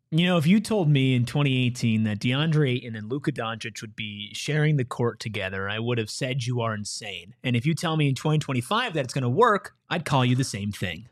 You know, if you told me in 2018 that DeAndre Ayton and Luka Doncic would be sharing the court together, I would have said you are insane. And if you tell me in 2025 that it's going to work, I'd call you the same thing.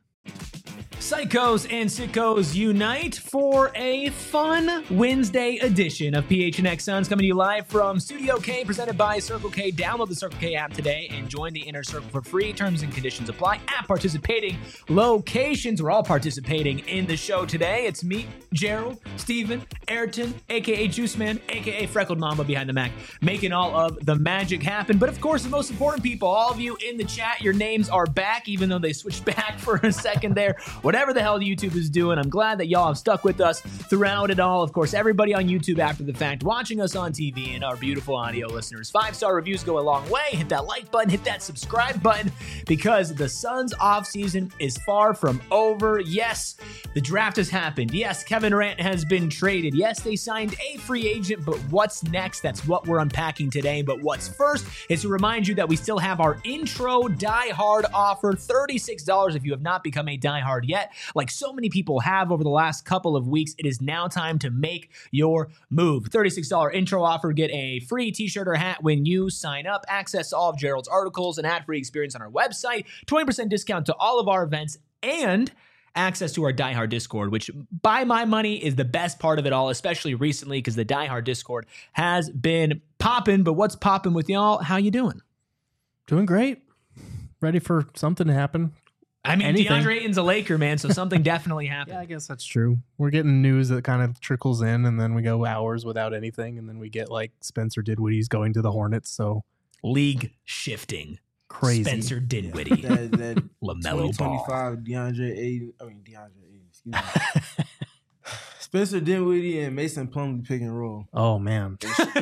Psychos and sickos unite for a fun Wednesday edition of PHNX Suns, coming to you live from Studio K, presented by Circle K. Download the Circle K app today and join the Inner Circle for free. Terms and conditions apply at participating locations. We're all participating in the show today. It's me, Gerald, Steven, Ayrton, a.k.a. Juice Man, a.k.a. Freckled Mamba behind the Mac, making all of the magic happen. But of course, the most important people, all of you in the chat, your names are back, even though they switched back for a second there. Whatever the hell YouTube is doing, I'm glad that y'all have stuck with us throughout it all. Of course, everybody on YouTube after the fact, watching us on TV, and our beautiful audio listeners. 5-star reviews go a long way. Hit that like button, hit that subscribe button, because the Suns offseason is far from over. Yes, the draft has happened. Yes, Kevin Durant has been traded. Yes, they signed a free agent, but what's next? That's what we're unpacking today. But what's first is to remind you that we still have our intro Die Hard offer, $36 if you have not become a Die Hard yet. Like so many people have over the last couple of weeks, it is now time to make your move. $36 intro offer. Get a free t-shirt or hat when you sign up. Access to all of Gerald's articles and ad-free experience on our website. 20% discount to all of our events and access to our Die Hard Discord, which by my money is the best part of it all, especially recently because the Die Hard Discord has been popping. But what's popping with y'all? How you doing? Doing great. Ready for something to happen. I mean, DeAndre Ayton's a Laker, man, so something definitely happened. Yeah, I guess that's true. We're getting news that kind of trickles in, and then we go hours without anything, and then we get like Spencer Dinwiddie's going to the Hornets. So league shifting. Crazy. Spencer Dinwiddie. that LaMelo Ball. 2025 DeAndre Ayton, excuse me. Spencer Dinwiddie and Mason Plumlee pick and roll. Oh, man.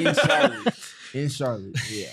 In Charlotte, yeah.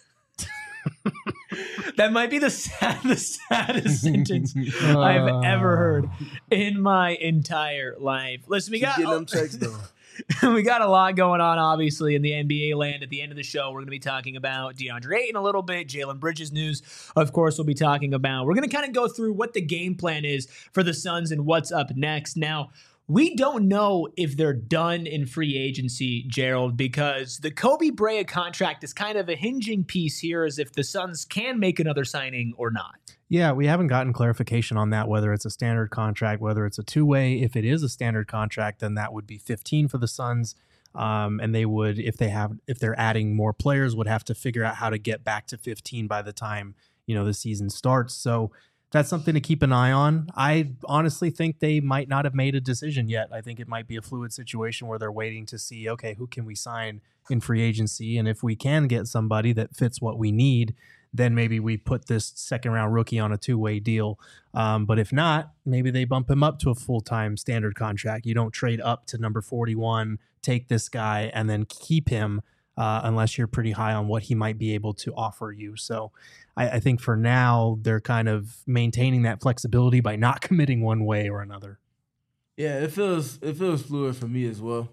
That might be the saddest sentence I've ever heard in my entire life. Listen, we got them checks though. We got a lot going on, obviously, in the NBA land. At the end of the show, we're going to be talking about DeAndre Ayton a little bit. Jalen Bridges news, of course, we'll be talking about. We're going to kind of go through what the game plan is for the Suns and what's up next. Now, we don't know if they're done in free agency, Gerald, because the Kobe Bryant contract is kind of a hinging piece here as if the Suns can make another signing or not. Yeah, we haven't gotten clarification on that, whether it's a standard contract, whether it's a two-way. If it is a standard contract, then that would be 15 for the Suns. And they would, if they're adding more players, would have to figure out how to get back to 15 by the time, the season starts. So that's something to keep an eye on. I honestly think they might not have made a decision yet. I think it might be a fluid situation where they're waiting to see, okay, who can we sign in free agency? And if we can get somebody that fits what we need, then maybe we put this second-round rookie on a two-way deal. But if not, maybe they bump him up to a full-time standard contract. You don't trade up to number 41, take this guy, and then keep him unless you're pretty high on what he might be able to offer you. So I think for now, they're kind of maintaining that flexibility by not committing one way or another. Yeah, it feels fluid for me as well.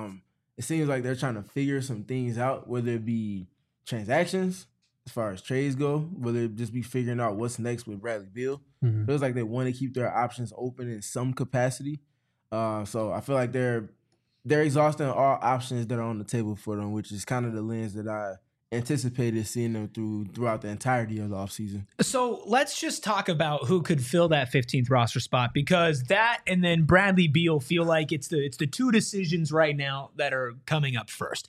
It seems like they're trying to figure some things out, whether it be transactions, as far as trades go, whether it just be figuring out what's next with Bradley Beal. Mm-hmm. Feels like they want to keep their options open in some capacity. So I feel like they're exhausting all options that are on the table for them, which is kind of the lens that I anticipated seeing them throughout the entirety of the offseason. So let's just talk about who could fill that 15th roster spot, because that and then Bradley Beal feel like it's the two decisions right now that are coming up first.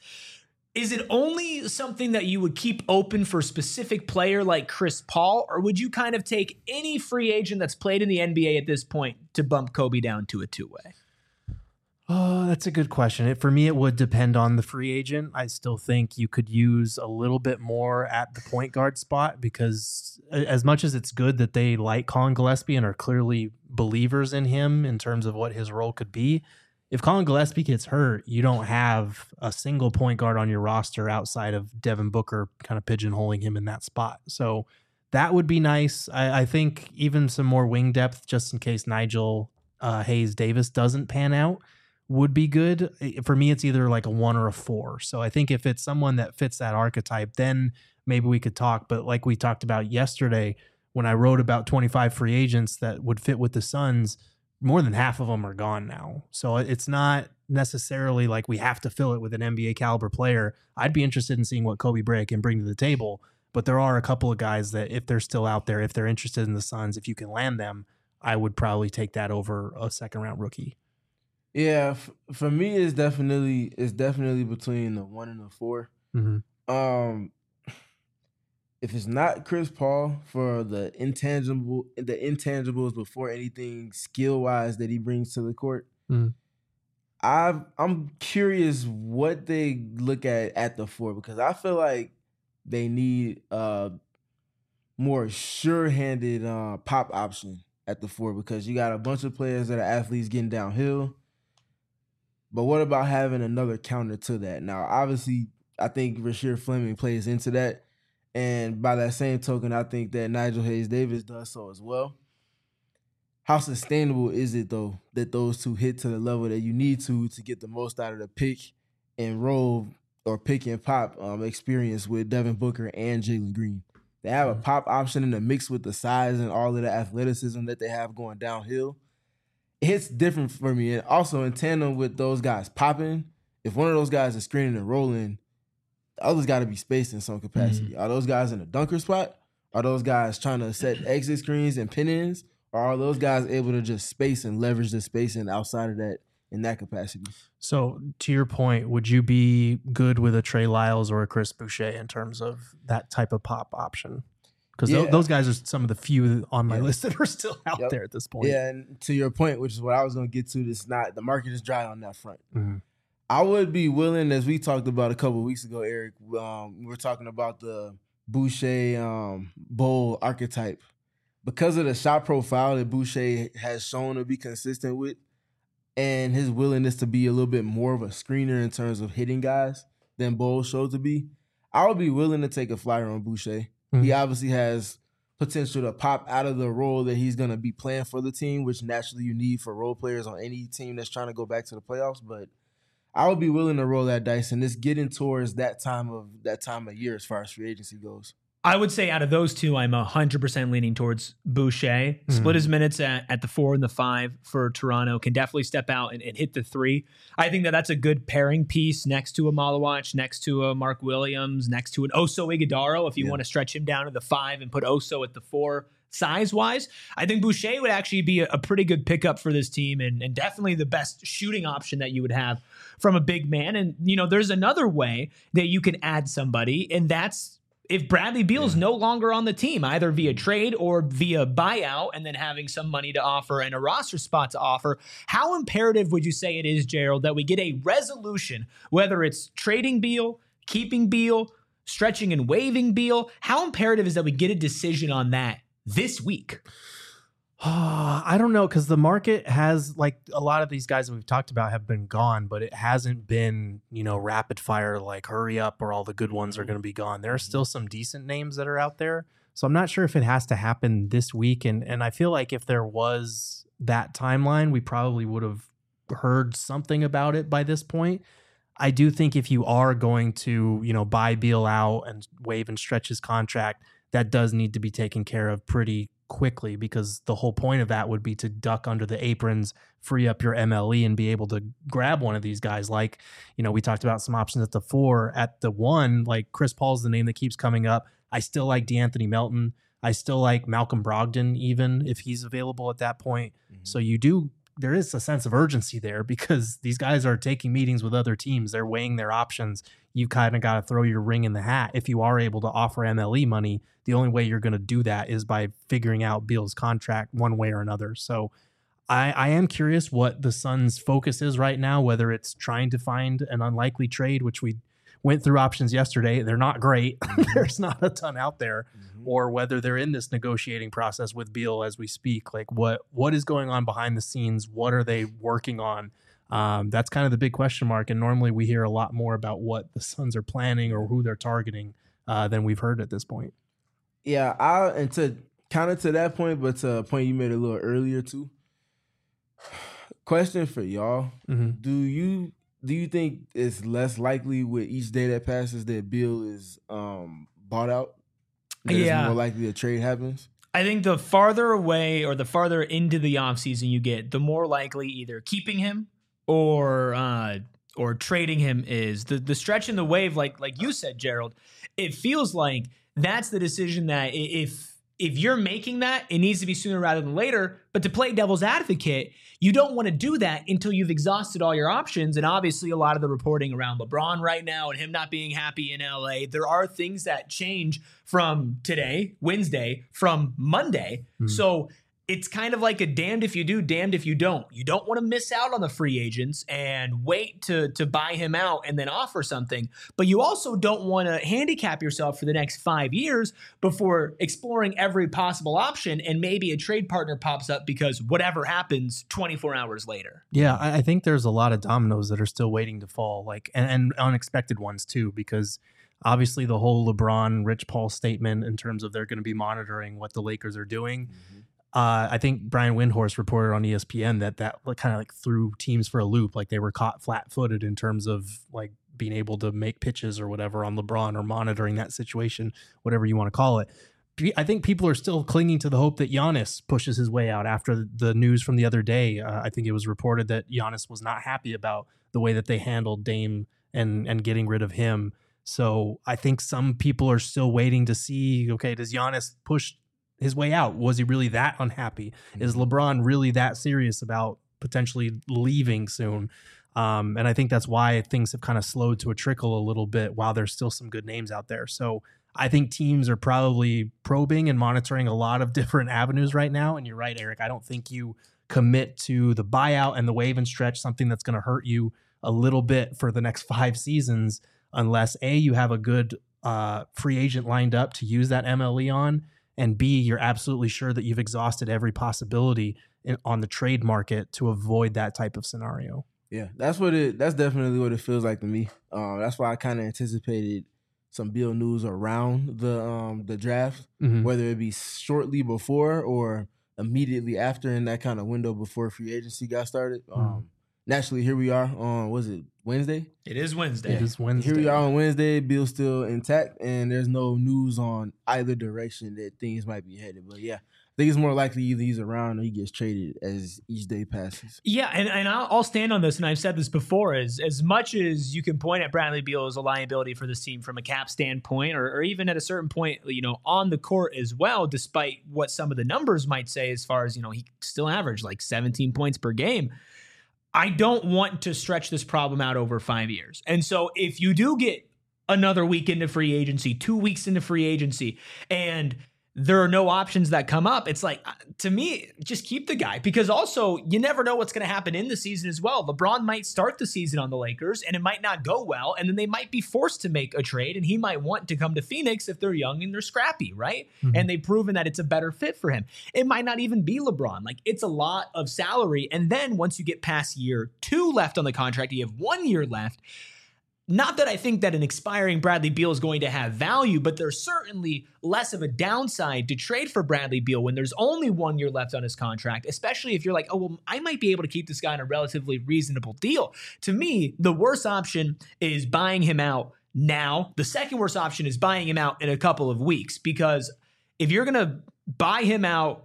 Is it only something that you would keep open for a specific player like Chris Paul, or would you kind of take any free agent that's played in the NBA at this point to bump Kobe down to a two-way? Oh, that's a good question. For me, it would depend on the free agent. I still think you could use a little bit more at the point guard spot, because as much as it's good that they like Colin Gillespie and are clearly believers in him in terms of what his role could be, if Colin Gillespie gets hurt, you don't have a single point guard on your roster outside of Devin Booker kind of pigeonholing him in that spot. So that would be nice. I think even some more wing depth, just in case Nigel Hayes-Davis doesn't pan out, would be good. For me, it's either like a 1 or a 4. So I think if it's someone that fits that archetype, then maybe we could talk. But like we talked about yesterday, when I wrote about 25 free agents that would fit with the Suns, more than half of them are gone now. So it's not necessarily like we have to fill it with an NBA caliber player. I'd be interested in seeing what Kobe Bryant can bring to the table. But there are a couple of guys that if they're still out there, if they're interested in the Suns, if you can land them, I would probably take that over a second round rookie. Yeah, for me, it's definitely between the 1 and the 4. Mm-hmm. If it's not Chris Paul for the intangibles before anything skill wise that he brings to the court, I'm curious what they look at the 4, because I feel like they need a more sure-handed pop option at the 4, because you got a bunch of players that are athletes getting downhill. But what about having another counter to that? Now, obviously, I think Rasheed Fleming plays into that. And by that same token, I think that Nigel Hayes-Davis does so as well. How sustainable is it, though, that those two hit to the level that you need to get the most out of the pick and roll or pick and pop experience with Devin Booker and Jalen Green? They have a pop option in the mix with the size and all of the athleticism that they have going downhill. It hits different for me. And also in tandem with those guys popping, if one of those guys is screening and rolling, the other's got to be spaced in some capacity. Are those guys in a dunker spot? Are those guys trying to set exit screens and pin-ins? Or are those guys able to just space and leverage the spacing outside of that in that capacity? So to your point, would you be good with a Trey Lyles or a Chris Boucher in terms of that type of pop option? Because those guys are some of the few on my list that are still out there at this point. Yeah, and to your point, which is what I was going to get to, the market is dry on that front. I would be willing, as we talked about a couple of weeks ago, Eric, we were talking about the Boucher Bowl archetype. Because of the shot profile that Boucher has shown to be consistent with and his willingness to be a little bit more of a screener in terms of hitting guys than Bowl showed to be, I would be willing to take a flyer on Boucher. He obviously has potential to pop out of the role that he's going to be playing for the team, which naturally you need for role players on any team that's trying to go back to the playoffs. But I would be willing to roll that dice, and it's getting towards that time of year as far as free agency goes. I would say out of those two, I'm 100% leaning towards Boucher. Split his minutes at the 4 and the 5 for Toronto. Can definitely step out and hit the 3. I think that's a good pairing piece next to a Malawach, next to a Mark Williams, next to an Oso Ighodaro if you want to stretch him down to the 5 and put Oso at the 4 size-wise. I think Boucher would actually be a pretty good pickup for this team and definitely the best shooting option that you would have from a big man. And, there's another way that you can add somebody, and that's if Bradley Beal's no longer on the team, either via trade or via buyout, and then having some money to offer and a roster spot to offer, how imperative would you say it is, Gerald, that we get a resolution, whether it's trading Beal, keeping Beal, stretching and waiving Beal? How imperative is that we get a decision on that this week? I don't know, because the market has, like, a lot of these guys that we've talked about have been gone, but it hasn't been, rapid fire, like hurry up or all the good ones are going to be gone. There are still some decent names that are out there. So I'm not sure if it has to happen this week. And I feel like if there was that timeline, we probably would have heard something about it by this point. I do think if you are going to, buy Beal out and waive and stretch his contract, that does need to be taken care of pretty quickly, because the whole point of that would be to duck under the aprons, free up your MLE, and be able to grab one of these guys. Like, we talked about some options at the 4. At the 1, like Chris Paul's the name that keeps coming up. I still like DeAnthony Melton. I still like Malcolm Brogdon, even if he's available at that point. So there is a sense of urgency there, because these guys are taking meetings with other teams. They're weighing their options. You kind of got to throw your ring in the hat. If you are able to offer MLE money, the only way you're going to do that is by figuring out Beal's contract one way or another. So I am curious what the Suns' focus is right now, whether it's trying to find an unlikely trade, which we went through options yesterday. They're not great. There's not a ton out there. Or whether they're in this negotiating process with Beal as we speak. Like, what is going on behind the scenes? What are they working on? That's kind of the big question mark. And normally we hear a lot more about what the Suns are planning or who they're targeting than we've heard at this point. Yeah, and to kind of to that point, but to a point you made a little earlier too. Question for y'all: Do you think it's less likely with each day that passes that Beal is bought out? That it's more likely a trade happens? I think the farther away or the farther into the offseason you get, the more likely either keeping him or trading him is. The stretch in the wave, like you said, Gerald, it feels like that's the decision that if you're making that, it needs to be sooner rather than later. But to play devil's advocate, you don't want to do that until you've exhausted all your options. And obviously, a lot of the reporting around LeBron right now and him not being happy in LA, there are things that change from today, Wednesday, from Monday. So it's kind of like a damned if you do, damned if you don't. You don't want to miss out on the free agents and wait to buy him out and then offer something. But you also don't want to handicap yourself for the next 5 years before exploring every possible option and maybe a trade partner pops up because whatever happens 24 hours later. Yeah, I think there's a lot of dominoes that are still waiting to fall, like and unexpected ones too, because obviously the whole LeBron, Rich Paul statement in terms of they're going to be monitoring what the Lakers are doing. I think Brian Windhorst reported on ESPN that kind of like threw teams for a loop, like they were caught flat-footed in terms of like being able to make pitches or whatever on LeBron or monitoring that situation, whatever you want to call it. I think people are still clinging to the hope that Giannis pushes his way out after the news from the other day. I think it was reported that Giannis was not happy about the way that they handled Dame and getting rid of him. So I think some people are still waiting to see, okay, does Giannis push his way out? Was he really that unhappy? Is LeBron really that serious about potentially leaving soon? And I think that's why things have kind of slowed to a trickle a little bit while there's still some good names out there. So I think teams are probably probing and monitoring a lot of different avenues right now. And you're right, Eric. I don't think you commit to the buyout and the wave and stretch, something that's going to hurt you a little bit for the next 5 seasons, unless A, you have a good free agent lined up to use that MLE on, and B, you're absolutely sure that you've exhausted every possibility on the trade market to avoid that type of scenario. Yeah, that's definitely what it feels like to me. That's why I kind of anticipated some Beal news around the draft, whether it be shortly before or immediately after in that kind of window before free agency got started. Naturally, here we are on, was it Wednesday? It is Wednesday. It is Wednesday. Here we are on Wednesday. Bill's still intact, and there's no news on either direction that things might be headed. But yeah, I think it's more likely either he's around or he gets traded as each day passes. Yeah, and I'll stand on this, and I've said this before, as much as you can point at Bradley Beal as a liability for this team from a cap standpoint, or even at a certain point, on the court as well, despite what some of the numbers might say as far as, he still averaged like 17 points per game. I don't want to stretch this problem out over 5 years. And so if you do get another week into free agency, 2 weeks into free agency, and there are no options that come up, it's like, to me, just keep the guy, because also you never know what's going to happen in the season as well. LeBron might start the season on the Lakers and it might not go well, and then they might be forced to make a trade, and he might want to come to Phoenix if they're young and they're scrappy, right? And they've proven that it's a better fit for him. It might not even be LeBron. Like, it's a lot of salary, and then once you get past year 2 left on the contract, you have 1 year left. Not that I think that an expiring Bradley Beal is going to have value, but there's certainly less of a downside to trade for Bradley Beal when there's only 1 year left on his contract, especially if you're like, oh, well, I might be able to keep this guy on a relatively reasonable deal. To me, the worst option is buying him out now. The second worst option is buying him out in a couple of weeks, because if you're going to buy him out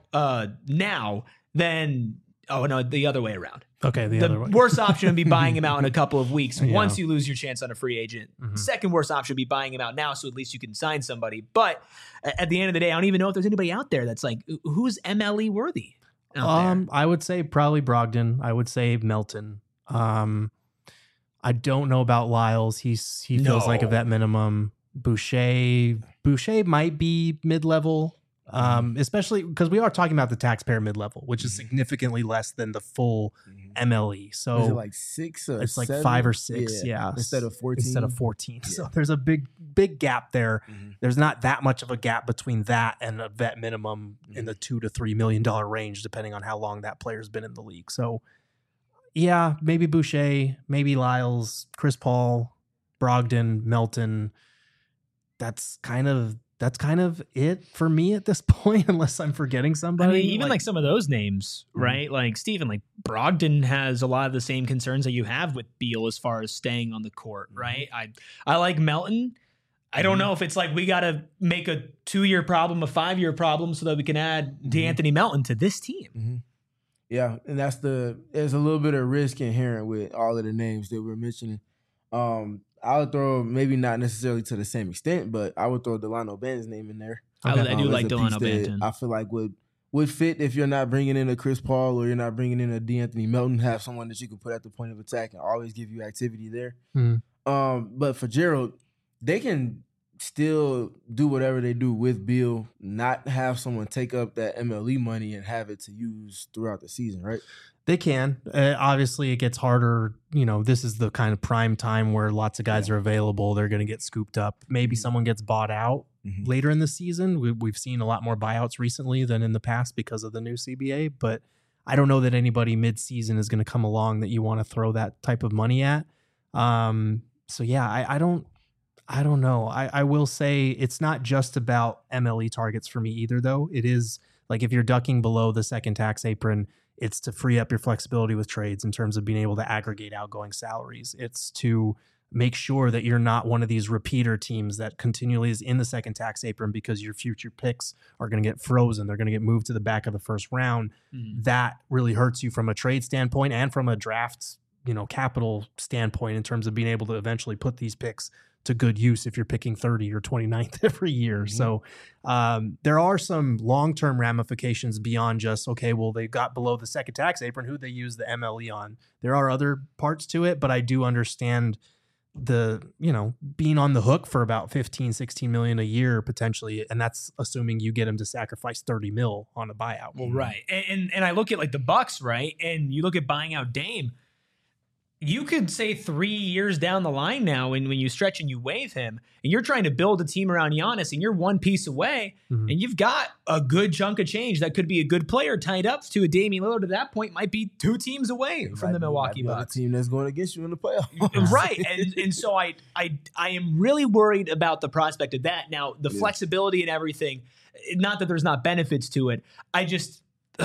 now, then, oh, no, the other way around. Okay, the other way. Worst option would be buying him out in a couple of weeks once you lose your chance on a free agent. Second worst option would be buying him out now, so at least you can sign somebody. But at the end of the day, I don't even know if there's anybody out there that's like, who's MLE worthy out there? I would say probably Brogdon. I would say Melton. I don't know about Lyles. He feels like a vet minimum. Boucher might be mid-level. Especially because we are talking about the taxpayer mid-level, which is significantly less than the full MLE. So is it like 6 or it's 7? like 5 or 6, yeah. Instead of 14. Yeah. So there's a big gap there. There's not that much of a gap between that and a vet minimum in the $2 to $3 million range, depending on how long that player's been in the league. So yeah, maybe Boucher, maybe Lyles, Chris Paul, Brogdon, Melton. That's kind of it for me at this point, unless I'm forgetting somebody. I mean, even like some of those names, right? Like Steven, like Brogdon has a lot of the same concerns that you have with Beal as far as staying on the court, right? I like Melton. I don't know if it's like we got to make a 2-year problem a 5-year problem so that we can add DeAnthony Melton to this team. Yeah, and there's a little bit of risk inherent with all of the names that we're mentioning. I would throw, maybe not necessarily to the same extent, but I would throw Delano Banton's name in there. I do like as a Delano piece that Banton. I feel like would fit if you're not bringing in a Chris Paul or you're not bringing in a DeAnthony Melton. Have someone that you can put at the point of attack and always give you activity there. But for Gerald, they can still do whatever they do with Beal, not have someone take up that MLE money and have it to use throughout the season, right? They can. Obviously, it gets harder. This is the kind of prime time where lots of guys are available. They're going to get scooped up. Maybe someone gets bought out later in the season. We've seen a lot more buyouts recently than in the past because of the new CBA. But I don't know that anybody mid-season is going to come along that you want to throw that type of money at. So, yeah, I don't know. I will say it's not just about MLE targets for me either, though. It is like if you're ducking below the second tax apron, it's to free up your flexibility with trades in terms of being able to aggregate outgoing salaries. It's to make sure that you're not one of these repeater teams that continually is in the second tax apron because your future picks are going to get frozen. They're going to get moved to the back of the first round. That really hurts you from a trade standpoint and from a draft, capital standpoint in terms of being able to eventually put these picks to good use if you're picking 30 or 29th every year. So there are some long-term ramifications beyond just, okay, well, they got below the second tax apron, who they use the MLE on. There are other parts to it, but I do understand being on the hook for about 15, 16 million a year potentially. And that's assuming you get him to sacrifice 30 mil on a buyout. Well, right. And I look at like the Bucks, right? And you look at buying out Dame. You could say 3 years down the line now, when you stretch and you waive him, and you're trying to build a team around Giannis, and you're one piece away, and you've got a good chunk of change that could be a good player tied up to a Damian Lillard. At that point, might be 2 teams away from the Milwaukee Bucks. A team that's going against you in the playoffs, right? And so I am really worried about the prospect of that. Now, the flexibility and everything. Not that there's not benefits to it. I just,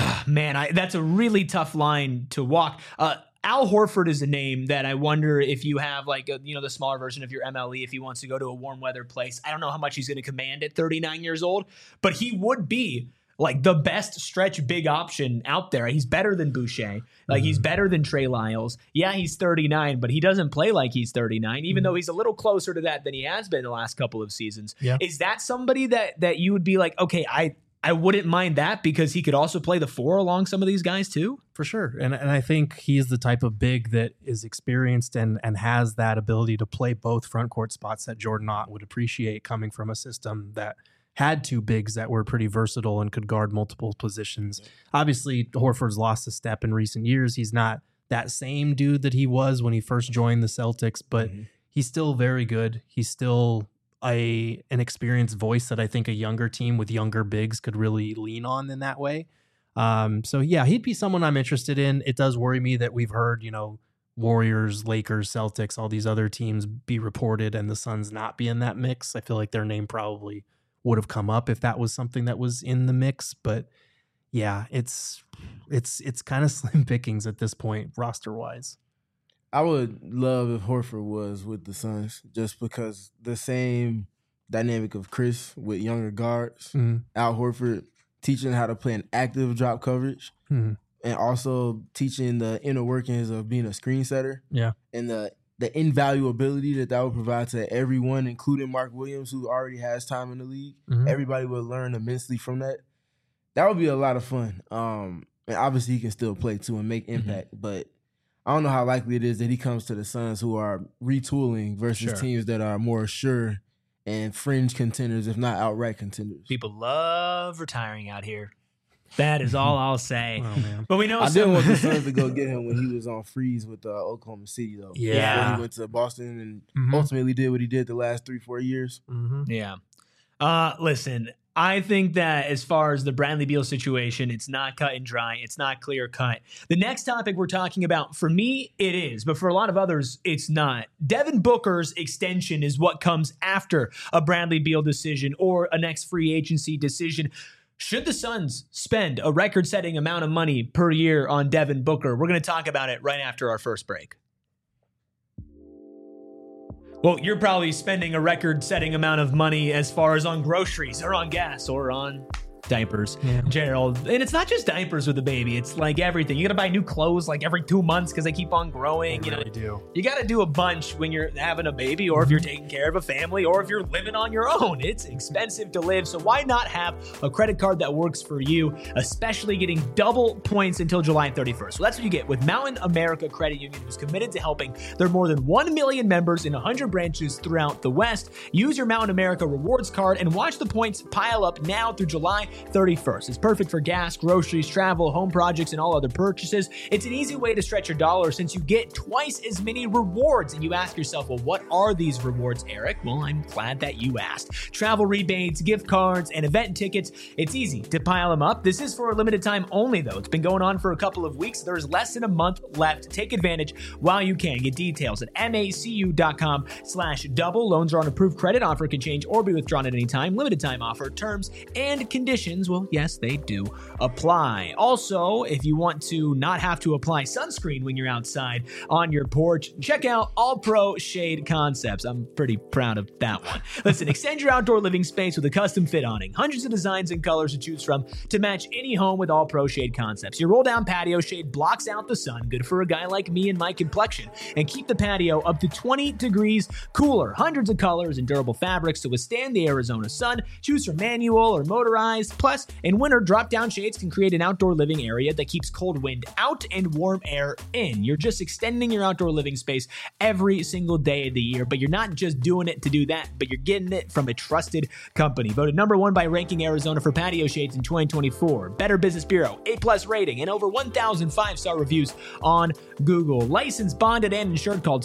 that's a really tough line to walk. Al Horford is a name that I wonder if you have the smaller version of your MLE, if he wants to go to a warm weather place. I don't know how much he's going to command at 39 years old, but he would be like the best stretch big option out there. He's better than Boucher. He's better than Trey Lyles. Yeah, he's 39, but he doesn't play like he's 39, even though he's a little closer to that than he has been the last couple of seasons. Yeah. Is that somebody that you would be like, okay, I wouldn't mind that because he could also play the 4 along some of these guys too? For sure. And I think he's the type of big that is experienced and has that ability to play both front court spots that Jordan Ott would appreciate coming from a system that had 2 bigs that were pretty versatile and could guard multiple positions. Obviously, Horford's lost a step in recent years. He's not that same dude that he was when he first joined the Celtics, but he's still very good. He's still an experienced voice that I think a younger team with younger bigs could really lean on in that way. So yeah, he'd be someone I'm interested in. It does worry me that we've heard, Warriors, Lakers, Celtics, all these other teams be reported and the Suns not be in that mix. I feel like their name probably would have come up if that was something that was in the mix. But yeah, it's kind of slim pickings at this point, roster wise. I would love if Horford was with the Suns just because the same dynamic of Chris with younger guards, Al Horford teaching how to play an active drop coverage and also teaching the inner workings of being a screen setter. Yeah. And the invaluability that would provide to everyone, including Mark Williams, who already has time in the league. Everybody would learn immensely from that. That would be a lot of fun. And obviously he can still play too and make impact, but I don't know how likely it is that he comes to the Suns who are retooling versus teams that are more sure and fringe contenders, if not outright contenders. People love retiring out here. That is all I'll say. Oh, man. But we know I didn't want the Suns to go get him when he was on freeze with Oklahoma City, though. Yeah. Before he went to Boston and ultimately did what he did the last 3-4 years. Yeah. Listen, I think that as far as the Bradley Beal situation, it's not cut and dry. It's not clear cut. The next topic we're talking about, for me, it is, but for a lot of others, it's not. Devin Booker's extension is what comes after a Bradley Beal decision or a next free agency decision. Should the Suns spend a record-setting amount of money per year on Devin Booker? We're going to talk about it right after our first break. Well, you're probably spending a record-setting amount of money as far as on groceries or on gas or on diapers, Gerald. And it's not just diapers with a baby. It's like everything. You got to buy new clothes like every 2 months because they keep on growing. They really do. You got to do a bunch when you're having a baby or if you're taking care of a family or if you're living on your own. It's expensive to live. So why not have a credit card that works for you, especially getting double points until July 31st? So that's what you get with Mountain America Credit Union, who's committed to helping their more than 1 million members in 100 branches throughout the West. Use your Mountain America Rewards card and watch the points pile up now through July 31st. It's perfect for gas, groceries, travel, home projects, and all other purchases. It's an easy way to stretch your dollar since you get twice as many rewards. And you ask yourself, well, what are these rewards, Eric? Well, I'm glad that you asked. Travel rebates, gift cards, and event tickets. It's easy to pile them up. This is for a limited time only, though. It's been going on for a couple of weeks. There's less than a month left. Take advantage while you can. Get details at macu.com/double. Loans are on approved credit. Offer can change or be withdrawn at any time. Limited time offer. Terms and conditions, well, yes, they do apply. Also, if you want to not have to apply sunscreen when you're outside on your porch, check out All Pro Shade Concepts. I'm pretty proud of that one. Listen, extend your outdoor living space with a custom fit awning. Hundreds of designs and colors to choose from to match any home with All Pro Shade Concepts. Your roll down patio shade blocks out the sun, good for a guy like me and my complexion, and keep the patio up to 20 degrees cooler. Hundreds of colors and durable fabrics to withstand the Arizona sun. Choose from manual or motorized. Plus, in winter, drop-down shades can create an outdoor living area that keeps cold wind out and warm air in. You're just extending your outdoor living space every single day of the year, but you're not just doing it to do that, but you're getting it from a trusted company. Voted #1 by Ranking Arizona for patio shades in 2024. Better Business Bureau, A+ rating, and over 1,000 5-star reviews on Google. Licensed, bonded, and insured. Called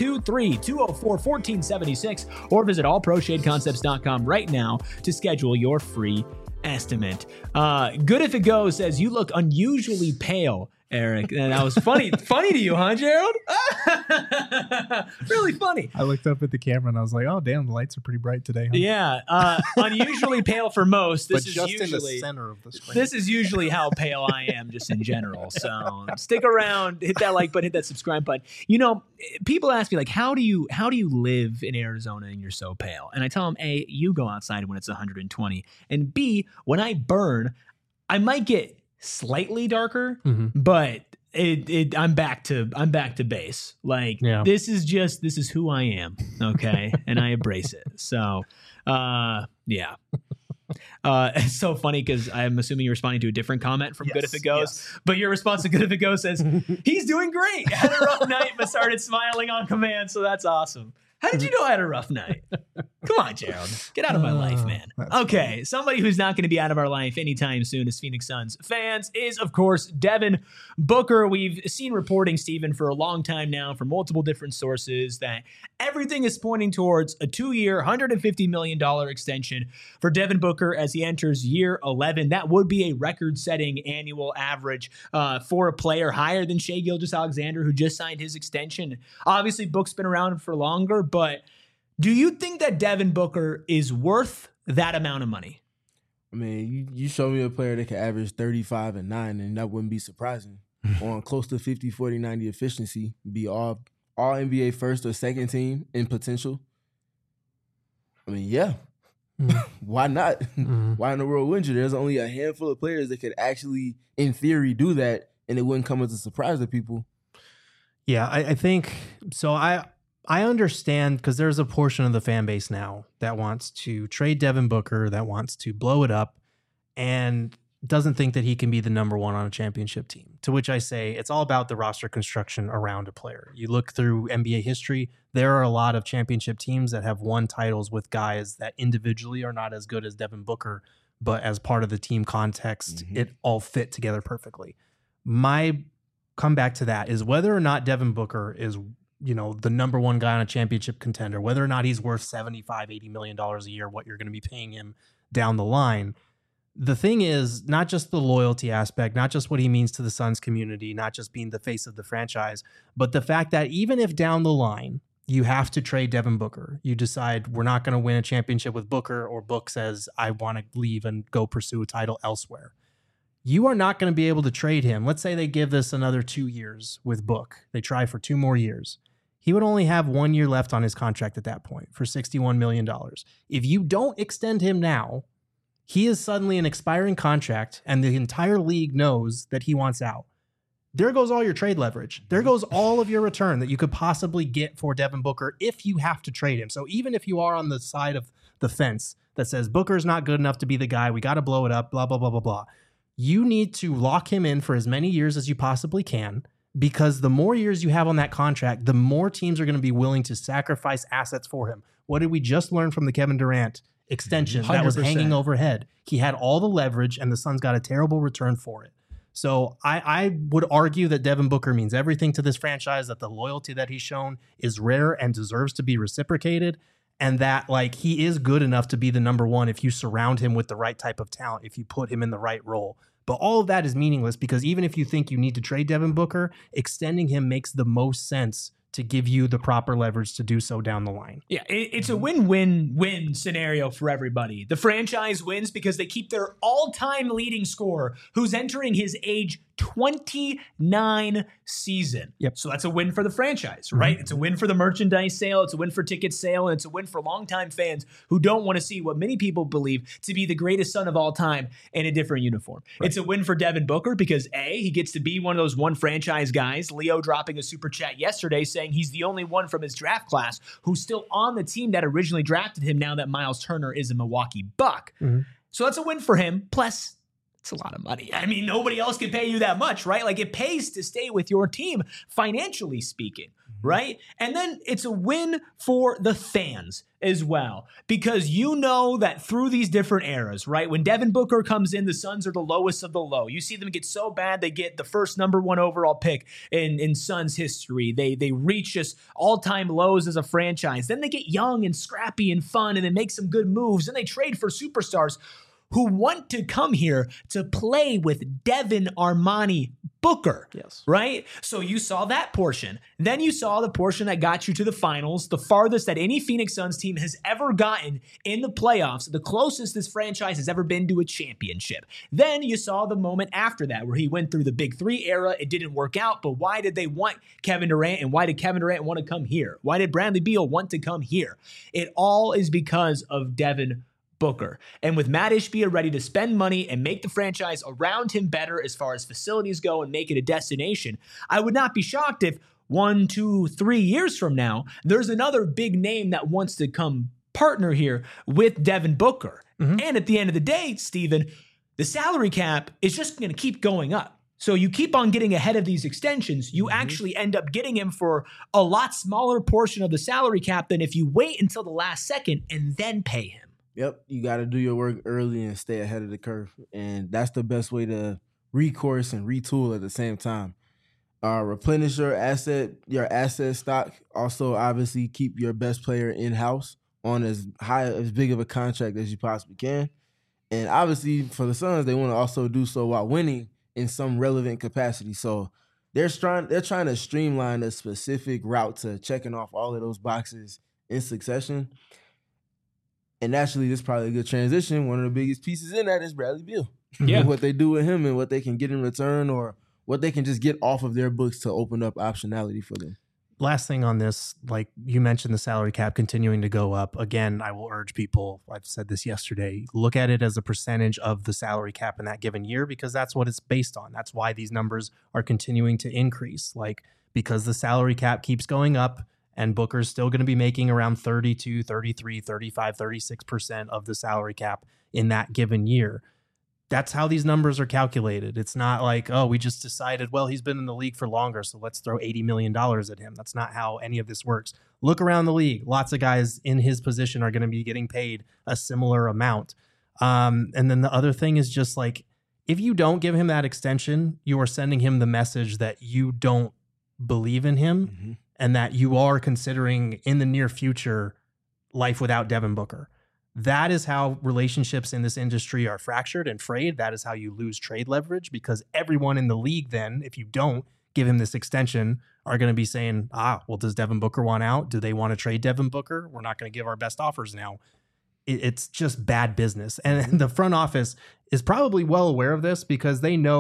623-204-1476 or visit allproshadeconcepts.com right now to schedule your free estimate. Good If It Goes says, you look unusually pale, Eric. And that was funny. Funny to you, huh, Gerald? Really funny. I looked up at the camera and I was like, oh, damn, the lights are pretty bright today. Huh? Yeah. Unusually pale for most. This but is just usually in the center of the screen. This is usually how pale I am just in general. So stick around, hit that like button, hit that subscribe button. You know, people ask me like, how do you live in Arizona and you're so pale? And I tell them, A, you go outside when it's 120. And B, when I burn, I might get slightly darker, but I'm back to base. Like this is who I am. Okay. And I embrace it. So, yeah. It's so funny because I'm assuming you're responding to a different comment from Good If It Goes, but your response to Good If It Goes says, he's doing great. Had a rough night, but started smiling on command. So that's awesome. How did you know I had a rough night? Come on, Gerald. Get out of my life, man. Okay, somebody who's not going to be out of our life anytime soon as Phoenix Suns fans is, of course, Devin Booker. We've seen reporting, Stephen, for a long time now from multiple different sources that everything is pointing towards a 2-year, $150 million extension for Devin Booker as he enters year 11. That would be a record-setting annual average for a player higher than Shai Gilgeous-Alexander, who just signed his extension. Obviously, Book's been around for longer, but do you think that Devin Booker is worth that amount of money? I mean, you show me a player that can average 35 and 9, and that wouldn't be surprising. On close to 50, 40, 90 efficiency, be all NBA first or second team in potential. I mean, yeah. Why not? Why in the world wouldn't you? There's only a handful of players that could actually, in theory, do that, and it wouldn't come as a surprise to people. Yeah, I think so. I understand because there's a portion of the fan base now that wants to trade Devin Booker, that wants to blow it up, and doesn't think that he can be the number one on a championship team. To which I say it's all about the roster construction around a player. You look through NBA history, there are a lot of championship teams that have won titles with guys that individually are not as good as Devin Booker, but as part of the team context, it all fit together perfectly. My comeback to that is whether or not Devin Booker is, you know, the number one guy on a championship contender, whether or not he's worth $75, $80 million a year, what you're going to be paying him down the line. The thing is not just the loyalty aspect, not just what he means to the Suns community, not just being the face of the franchise, but the fact that even if down the line you have to trade Devin Booker, you decide we're not going to win a championship with Booker, or Book says, I want to leave and go pursue a title elsewhere. You are not going to be able to trade him. Let's say they give this another 2 years with Book. They try for 2 more years. he would only have 1 year left on his contract at that point for $61 million. If you don't extend him now, he is suddenly an expiring contract and the entire league knows that he wants out. There goes all your trade leverage. There goes all of your return that you could possibly get for Devin Booker if you have to trade him. So even if you are on the side of the fence that says Booker's not good enough to be the guy, we got to blow it up, blah, blah, blah, blah, blah, you need to lock him in for as many years as you possibly can, because the more years you have on that contract, the more teams are going to be willing to sacrifice assets for him. What did we just learn from the Kevin Durant extension 100%. that was hanging overhead? He had all the leverage and the Suns got a terrible return for it. So I would argue that Devin Booker means everything to this franchise, that the loyalty that he's shown is rare and deserves to be reciprocated, and that like he is good enough to be the number one if you surround him with the right type of talent, if you put him in the right role. But all of that is meaningless because even if you think you need to trade Devin Booker, extending him makes the most sense to give you the proper leverage to do so down the line. Yeah, it's a win-win-win scenario for everybody. The franchise wins because they keep their all-time leading scorer, who's entering his age 29 season. Yep. So that's a win for the franchise, right? Mm-hmm. It's a win for the merchandise sale. It's a win for ticket sale. And it's a win for longtime fans who don't want to see what many people believe to be the greatest son of all time in a different uniform. Right. It's a win for Devin Booker because A, he gets to be one of those one franchise guys. Leo dropping a super chat yesterday saying he's the only one from his draft class who's still on the team that originally drafted him now that Miles Turner is a Milwaukee Buck. Mm-hmm. So that's a win for him. Plus, it's a lot of money. I mean, nobody else can pay you that much, right? Like it pays to stay with your team, financially speaking, right? And then it's a win for the fans as well, because you know that through these different eras, right? When Devin Booker comes in, the Suns are the lowest of the low. You see them get so bad, they get the first number one overall pick in Suns history. They reach just all-time lows as a franchise. Then they get young and scrappy and fun, and they make some good moves, and they trade for superstars who want to come here to play with Devin Armani Booker. Yes. Right? So you saw that portion. Then you saw the portion that got you to the finals, the farthest that any Phoenix Suns team has ever gotten in the playoffs, the closest this franchise has ever been to a championship. Then you saw the moment after that where he went through the Big Three era. It didn't work out, but why did they want Kevin Durant, and why did Kevin Durant want to come here? Why did Bradley Beal want to come here? It all is because of Devin Booker. And with Matt Ishbia ready to spend money and make the franchise around him better as far as facilities go and make it a destination, I would not be shocked if 1, 2, 3 years from now, there's another big name that wants to come partner here with Devin Booker. Mm-hmm. And at the end of the day, Steven, the salary cap is just going to keep going up. So you keep on getting ahead of these extensions, you actually end up getting him for a lot smaller portion of the salary cap than if you wait until the last second and then pay him. Yep, you got to do your work early and stay ahead of the curve. And that's the best way to recourse and retool at the same time. Replenish your asset stock. Also, obviously, keep your best player in-house on as big of a contract as you possibly can. And obviously, for the Suns, they want to also do so while winning in some relevant capacity. So they're trying to streamline a specific route to checking off all of those boxes in succession. And naturally, this is probably a good transition. One of the biggest pieces in that is Bradley Beal. Yeah. What they do with him and what they can get in return, or what they can just get off of their books to open up optionality for them. Last thing on this, like you mentioned, the salary cap continuing to go up. Again, I will urge people, I've said this yesterday, look at it as a percentage of the salary cap in that given year, because that's what it's based on. That's why these numbers are continuing to increase. Like, because the salary cap keeps going up, and Booker's still going to be making around 32, 33, 35, 36% of the salary cap in that given year. That's how these numbers are calculated. It's not like, oh, we just decided, well, he's been in the league for longer, so let's throw $80 million at him. That's not how any of this works. Look around the league. Lots of guys in his position are going to be getting paid a similar amount. And then the other thing is just like, if you don't give him that extension, you are sending him the message that you don't believe in him. Mm-hmm. And that you are considering in the near future life without Devin Booker. That is how relationships in this industry are fractured and frayed. That is how you lose trade leverage, because everyone in the league then, if you don't give him this extension, are going to be saying, well, does Devin Booker want out? Do they want to trade Devin Booker? We're not going to give our best offers now. It's just bad business. And the front office is probably well aware of this, because they know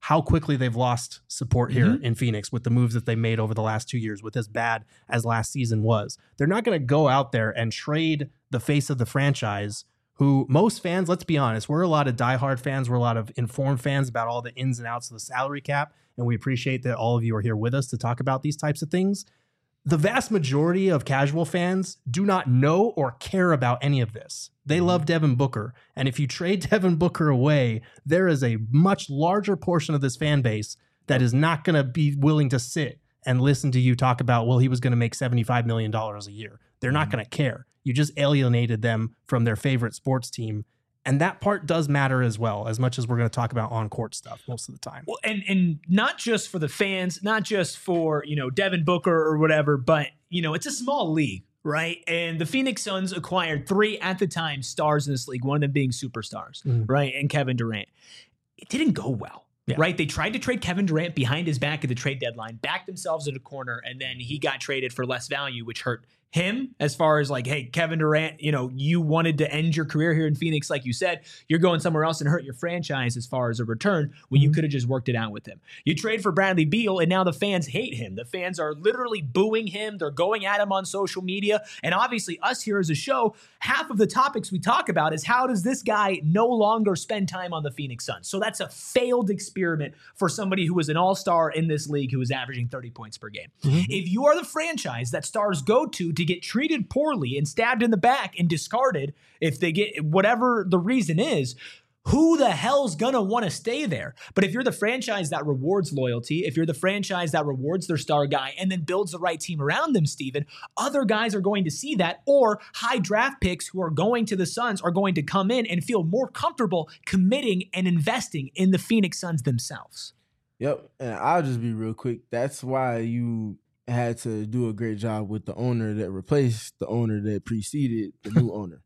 how quickly they've lost support here in Phoenix with the moves that they made over the last 2 years, with as bad as last season was. They're not going to go out there and trade the face of the franchise, who most fans, let's be honest, we're a lot of diehard fans. We're a lot of informed fans about all the ins and outs of the salary cap. And we appreciate that all of you are here with us to talk about these types of things. The vast majority of casual fans do not know or care about any of this. They love Devin Booker. And if you trade Devin Booker away, there is a much larger portion of this fan base that is not going to be willing to sit and listen to you talk about, well, he was going to make $75 million a year. They're not going to care. You just alienated them from their favorite sports team. And that part does matter as well, as much as we're going to talk about on-court stuff most of the time. Well, and not just for the fans, not just for, Devin Booker or whatever, but, it's a small league, right? And the Phoenix Suns acquired 3 at the time stars in this league, one of them being superstars, right? And Kevin Durant. It didn't go well. Yeah. Right? They tried to trade Kevin Durant behind his back at the trade deadline, backed themselves in a corner, and then he got traded for less value, which hurt him as far as like, hey, Kevin Durant, you wanted to end your career here in Phoenix. Like you said, you're going somewhere else and hurt your franchise as far as a return when you could have just worked it out with him. You trade for Bradley Beal and now the fans hate him. The fans are literally booing him. They're going at him on social media. And obviously us here as a show, half of the topics we talk about is how does this guy no longer spend time on the Phoenix Suns? So that's a failed experiment for somebody who was an all-star in this league who was averaging 30 points per game. If you are the franchise that stars go to get treated poorly and stabbed in the back and discarded if they get whatever the reason is, who the hell's gonna want to stay there? But if you're the franchise that rewards loyalty, if you're the franchise that rewards their star guy and then builds the right team around them, Steven, other guys are going to see that, or high draft picks who are going to the Suns are going to come in and feel more comfortable committing and investing in the Phoenix Suns themselves. Yep, and I'll just be real quick. That's why you had to do a great job with the owner that replaced the owner that preceded the new owner.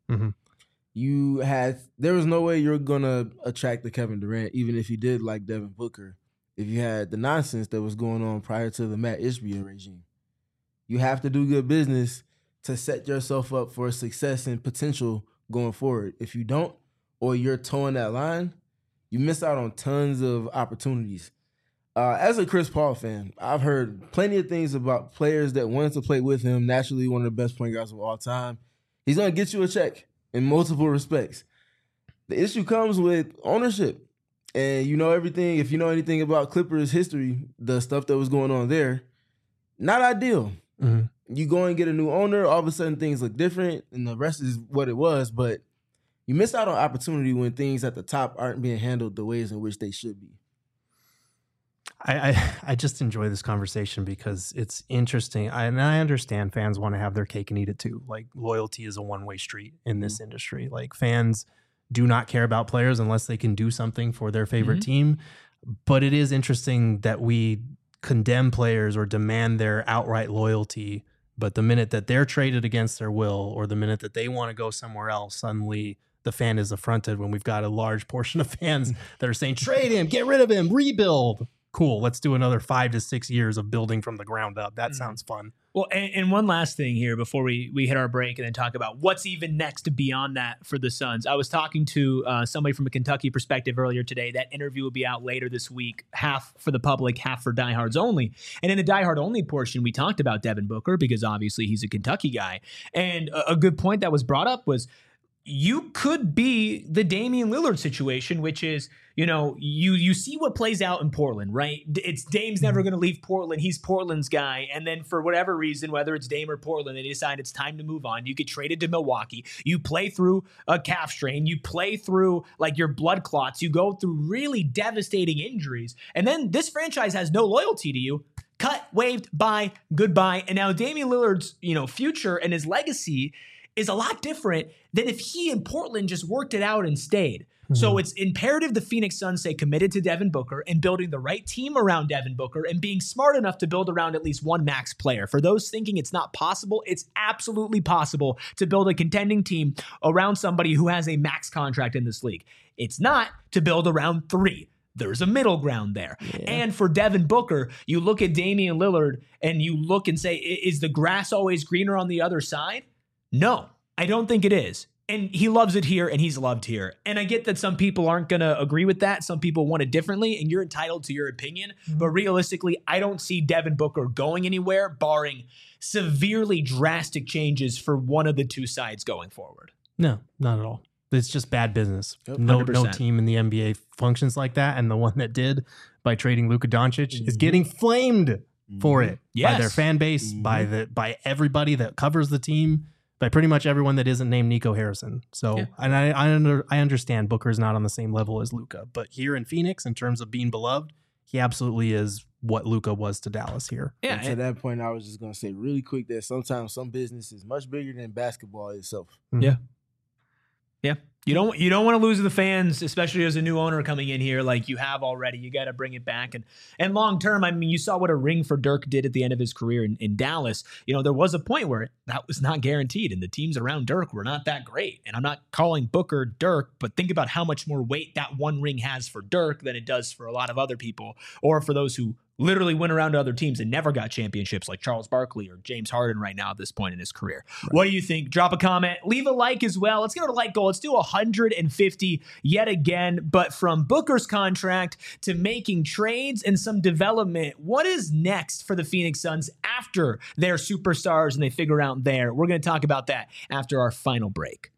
There was no way you're going to attract the Kevin Durant, even if you did like Devin Booker, if you had the nonsense that was going on prior to the Matt Ishbia regime. You have to do good business to set yourself up for success and potential going forward. If you don't, or you're towing that line, you miss out on tons of opportunities. As a Chris Paul fan, I've heard plenty of things about players that wanted to play with him, naturally one of the best point guards of all time. He's going to get you a check in multiple respects. The issue comes with ownership. And you know everything, if you know anything about Clippers history, the stuff that was going on there, not ideal. You go and get a new owner, all of a sudden things look different, and the rest is what it was. But you miss out on opportunity when things at the top aren't being handled the ways in which they should be. I just enjoy this conversation because it's interesting. And I understand fans want to have their cake and eat it too. Like, loyalty is a one-way street in this industry. Like, fans do not care about players unless they can do something for their favorite team. But it is interesting that we condemn players or demand their outright loyalty. But the minute that they're traded against their will, or the minute that they want to go somewhere else, suddenly the fan is affronted when we've got a large portion of fans that are saying, trade him, get rid of him, rebuild. Cool. Let's do another 5 to 6 years of building from the ground up. That sounds fun. Well, and one last thing here before we hit our break and then talk about what's even next beyond that for the Suns. I was talking to somebody from a Kentucky perspective earlier today. That interview will be out later this week, half for the public, half for diehards only. And in the diehard only portion, we talked about Devin Booker because obviously he's a Kentucky guy. And a good point that was brought up was, you could be the Damian Lillard situation, which is, you see what plays out in Portland, right? It's Dame's never going to leave Portland. He's Portland's guy. And then for whatever reason, whether it's Dame or Portland, they decide it's time to move on. You get traded to Milwaukee. You play through a calf strain. You play through like your blood clots. You go through really devastating injuries. And then this franchise has no loyalty to you. Cut, waived, bye, goodbye. And now Damian Lillard's, future and his legacy is a lot different than if he in Portland just worked it out and stayed. So it's imperative the Phoenix Suns stay committed to Devin Booker and building the right team around Devin Booker and being smart enough to build around at least one max player. For those thinking it's not possible, it's absolutely possible to build a contending team around somebody who has a max contract in this league. It's not to build around 3. There's a middle ground there. Yeah. And for Devin Booker, you look at Damian Lillard and you look and say, is the grass always greener on the other side? No, I don't think it is. And he loves it here, and he's loved here. And I get that some people aren't going to agree with that. Some people want it differently, and you're entitled to your opinion. But realistically, I don't see Devin Booker going anywhere, barring severely drastic changes for one of the two sides going forward. No, not at all. It's just bad business. Yep. No 100%. team in the NBA functions like that. And the one that did by trading Luka Doncic is getting flamed for it by their Yes. fan base, by everybody that covers the team, by pretty much everyone that isn't named Nico Harrison. So, and I understand Booker's not on the same level as Luka, but here in Phoenix, in terms of being beloved, he absolutely is what Luka was to Dallas here. And to that point, I was just going to say really quick that sometimes some business is much bigger than basketball itself. Yeah. You don't want to lose the fans, especially as a new owner coming in here like you have already. You got to bring it back. And long term, I mean, you saw what a ring for Dirk did at the end of his career in Dallas. You know, there was a point where that was not guaranteed, and the teams around Dirk were not that great. And I'm not calling Booker Dirk, but think about how much more weight that one ring has for Dirk than it does for a lot of other people, or for those who literally went around to other teams and never got championships like Charles Barkley or James Harden right now at this point in his career. Right. What do you think? Drop a comment. Leave a like as well. Let's get to like goal. Let's do 150 yet again. But from Booker's contract to making trades and some development, what is next for the Phoenix Suns after their superstars and they figure out there? We're going to talk about that after our final break.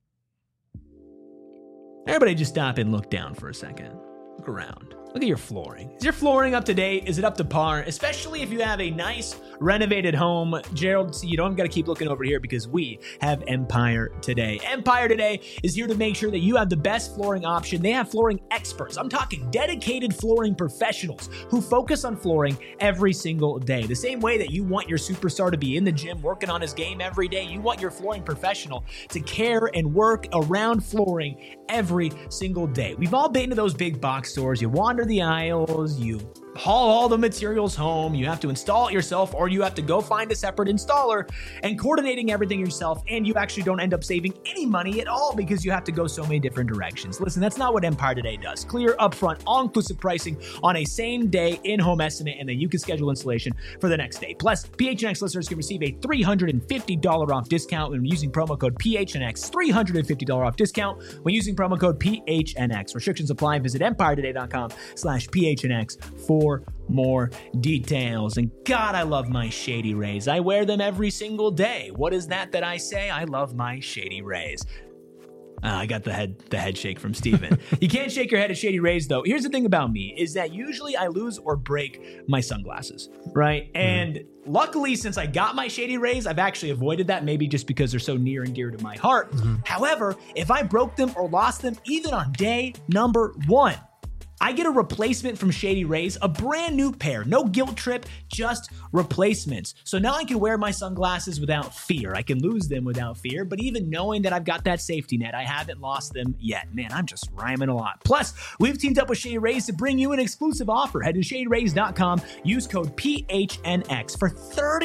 Everybody just stop and look down for a second. Look around. Look at your flooring. Is your flooring up to date? Is it up to par? Especially if you have a nice renovated home. Gerald, you don't got to keep looking over here because we have Empire Today. Empire Today is here to make sure that you have the best flooring option. They have flooring experts. I'm talking dedicated flooring professionals who focus on flooring every single day. The same way that you want your superstar to be in the gym working on his game every day, you want your flooring professional to care and work around flooring every single day. We've all been to those big box stores. You wander the aisles, you haul all the materials home, you have to install it yourself, or you have to go find a separate installer, and coordinating everything yourself, and you actually don't end up saving any money at all because you have to go so many different directions. Listen, that's not what Empire Today does. Clear, upfront, all-inclusive pricing on a same-day in-home estimate, and then you can schedule installation for the next day. Plus, PHNX listeners can receive a $350 off discount when using promo code PHNX. $350 off discount when using promo code PHNX. Restrictions apply. Visit EmpireToday.com/PHNX for more details. And God, I love my Shady Rays. I wear them every single day. What is that I say? I love my Shady Rays. I got the head shake from Steven. You can't shake your head at Shady Rays, though. Here's the thing about me, is that usually I lose or break my sunglasses, right? And luckily, since I got my Shady Rays, I've actually avoided that, maybe just because they're so near and dear to my heart. However, if I broke them or lost them, even on day number 1, I get a replacement from Shady Rays, a brand new pair, no guilt trip, just replacements. So now I can wear my sunglasses without fear. I can lose them without fear, but even knowing that I've got that safety net, I haven't lost them yet. Man, I'm just rhyming a lot. Plus, we've teamed up with Shady Rays to bring you an exclusive offer. Head to ShadyRays.com, use code PHNX for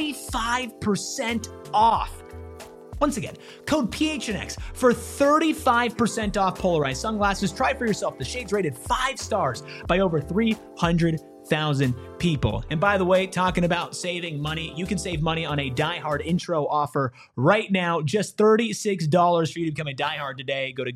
35% off. Once again, code PHNX for 35% off polarized sunglasses. Try for yourself. The shades rated 5 stars by over 300,000 people. And by the way, talking about saving money, you can save money on a Die Hard intro offer right now. Just $36 for you to become a Die Hard today. Go to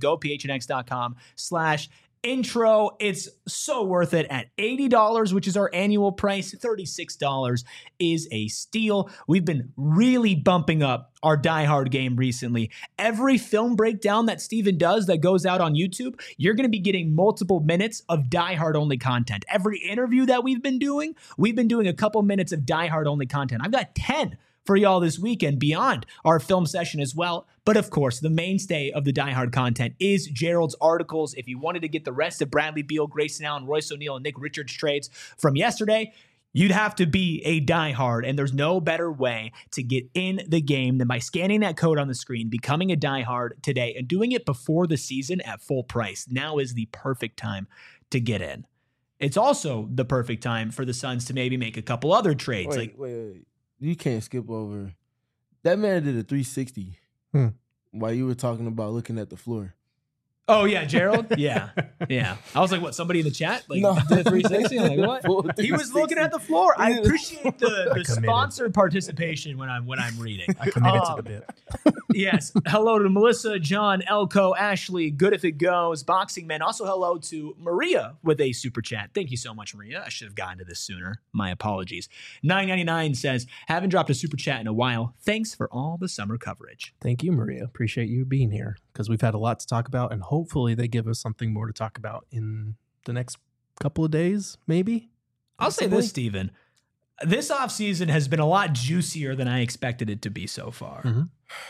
gophnx.com/intro. It's so worth it at $80, which is our annual price. $36 is a steal. We've been really bumping up our Die Hard game recently. Every film breakdown that Steven does that goes out on YouTube, you're going to be getting multiple minutes of Die Hard only content. Every interview that we've been doing a couple minutes of Die Hard only content. I've got 10 for y'all this weekend beyond our film session as well. But of course, the mainstay of the Die Hard content is Gerald's articles. If you wanted to get the rest of Bradley Beal, Grayson Allen, Royce O'Neal, and Nick Richards trades from yesterday, you'd have to be a diehard, and there's no better way to get in the game than by scanning that code on the screen, becoming a diehard today, and doing it before the season at full price. Now is the perfect time to get in. It's also the perfect time for the Suns to maybe make a couple other trades. Wait. You can't skip over. That man did a 360 while you were talking about looking at the floor. Oh yeah, Gerald. Yeah. I was like, what? Somebody in the chat? Like No. did a 360? I'm like, Full what? He was 360. looking at the floor. I appreciate the committed. sponsored participation when I'm reading. I committed to the bit. Yes. Hello to Melissa, John, Elko, Ashley, Good If It Goes, Boxing Man. Also hello to Maria with a super chat. Thank you so much, Maria. I should have gotten to this sooner. My apologies. 999 says, haven't dropped a super chat in a while. Thanks for all the summer coverage. Thank you, Maria. Appreciate you being here because we've had a lot to talk about, and hopefully they give us something more to talk about in the next couple of days, maybe. I'll say this, Steven. This offseason has been a lot juicier than I expected it to be so far. Mm-hmm.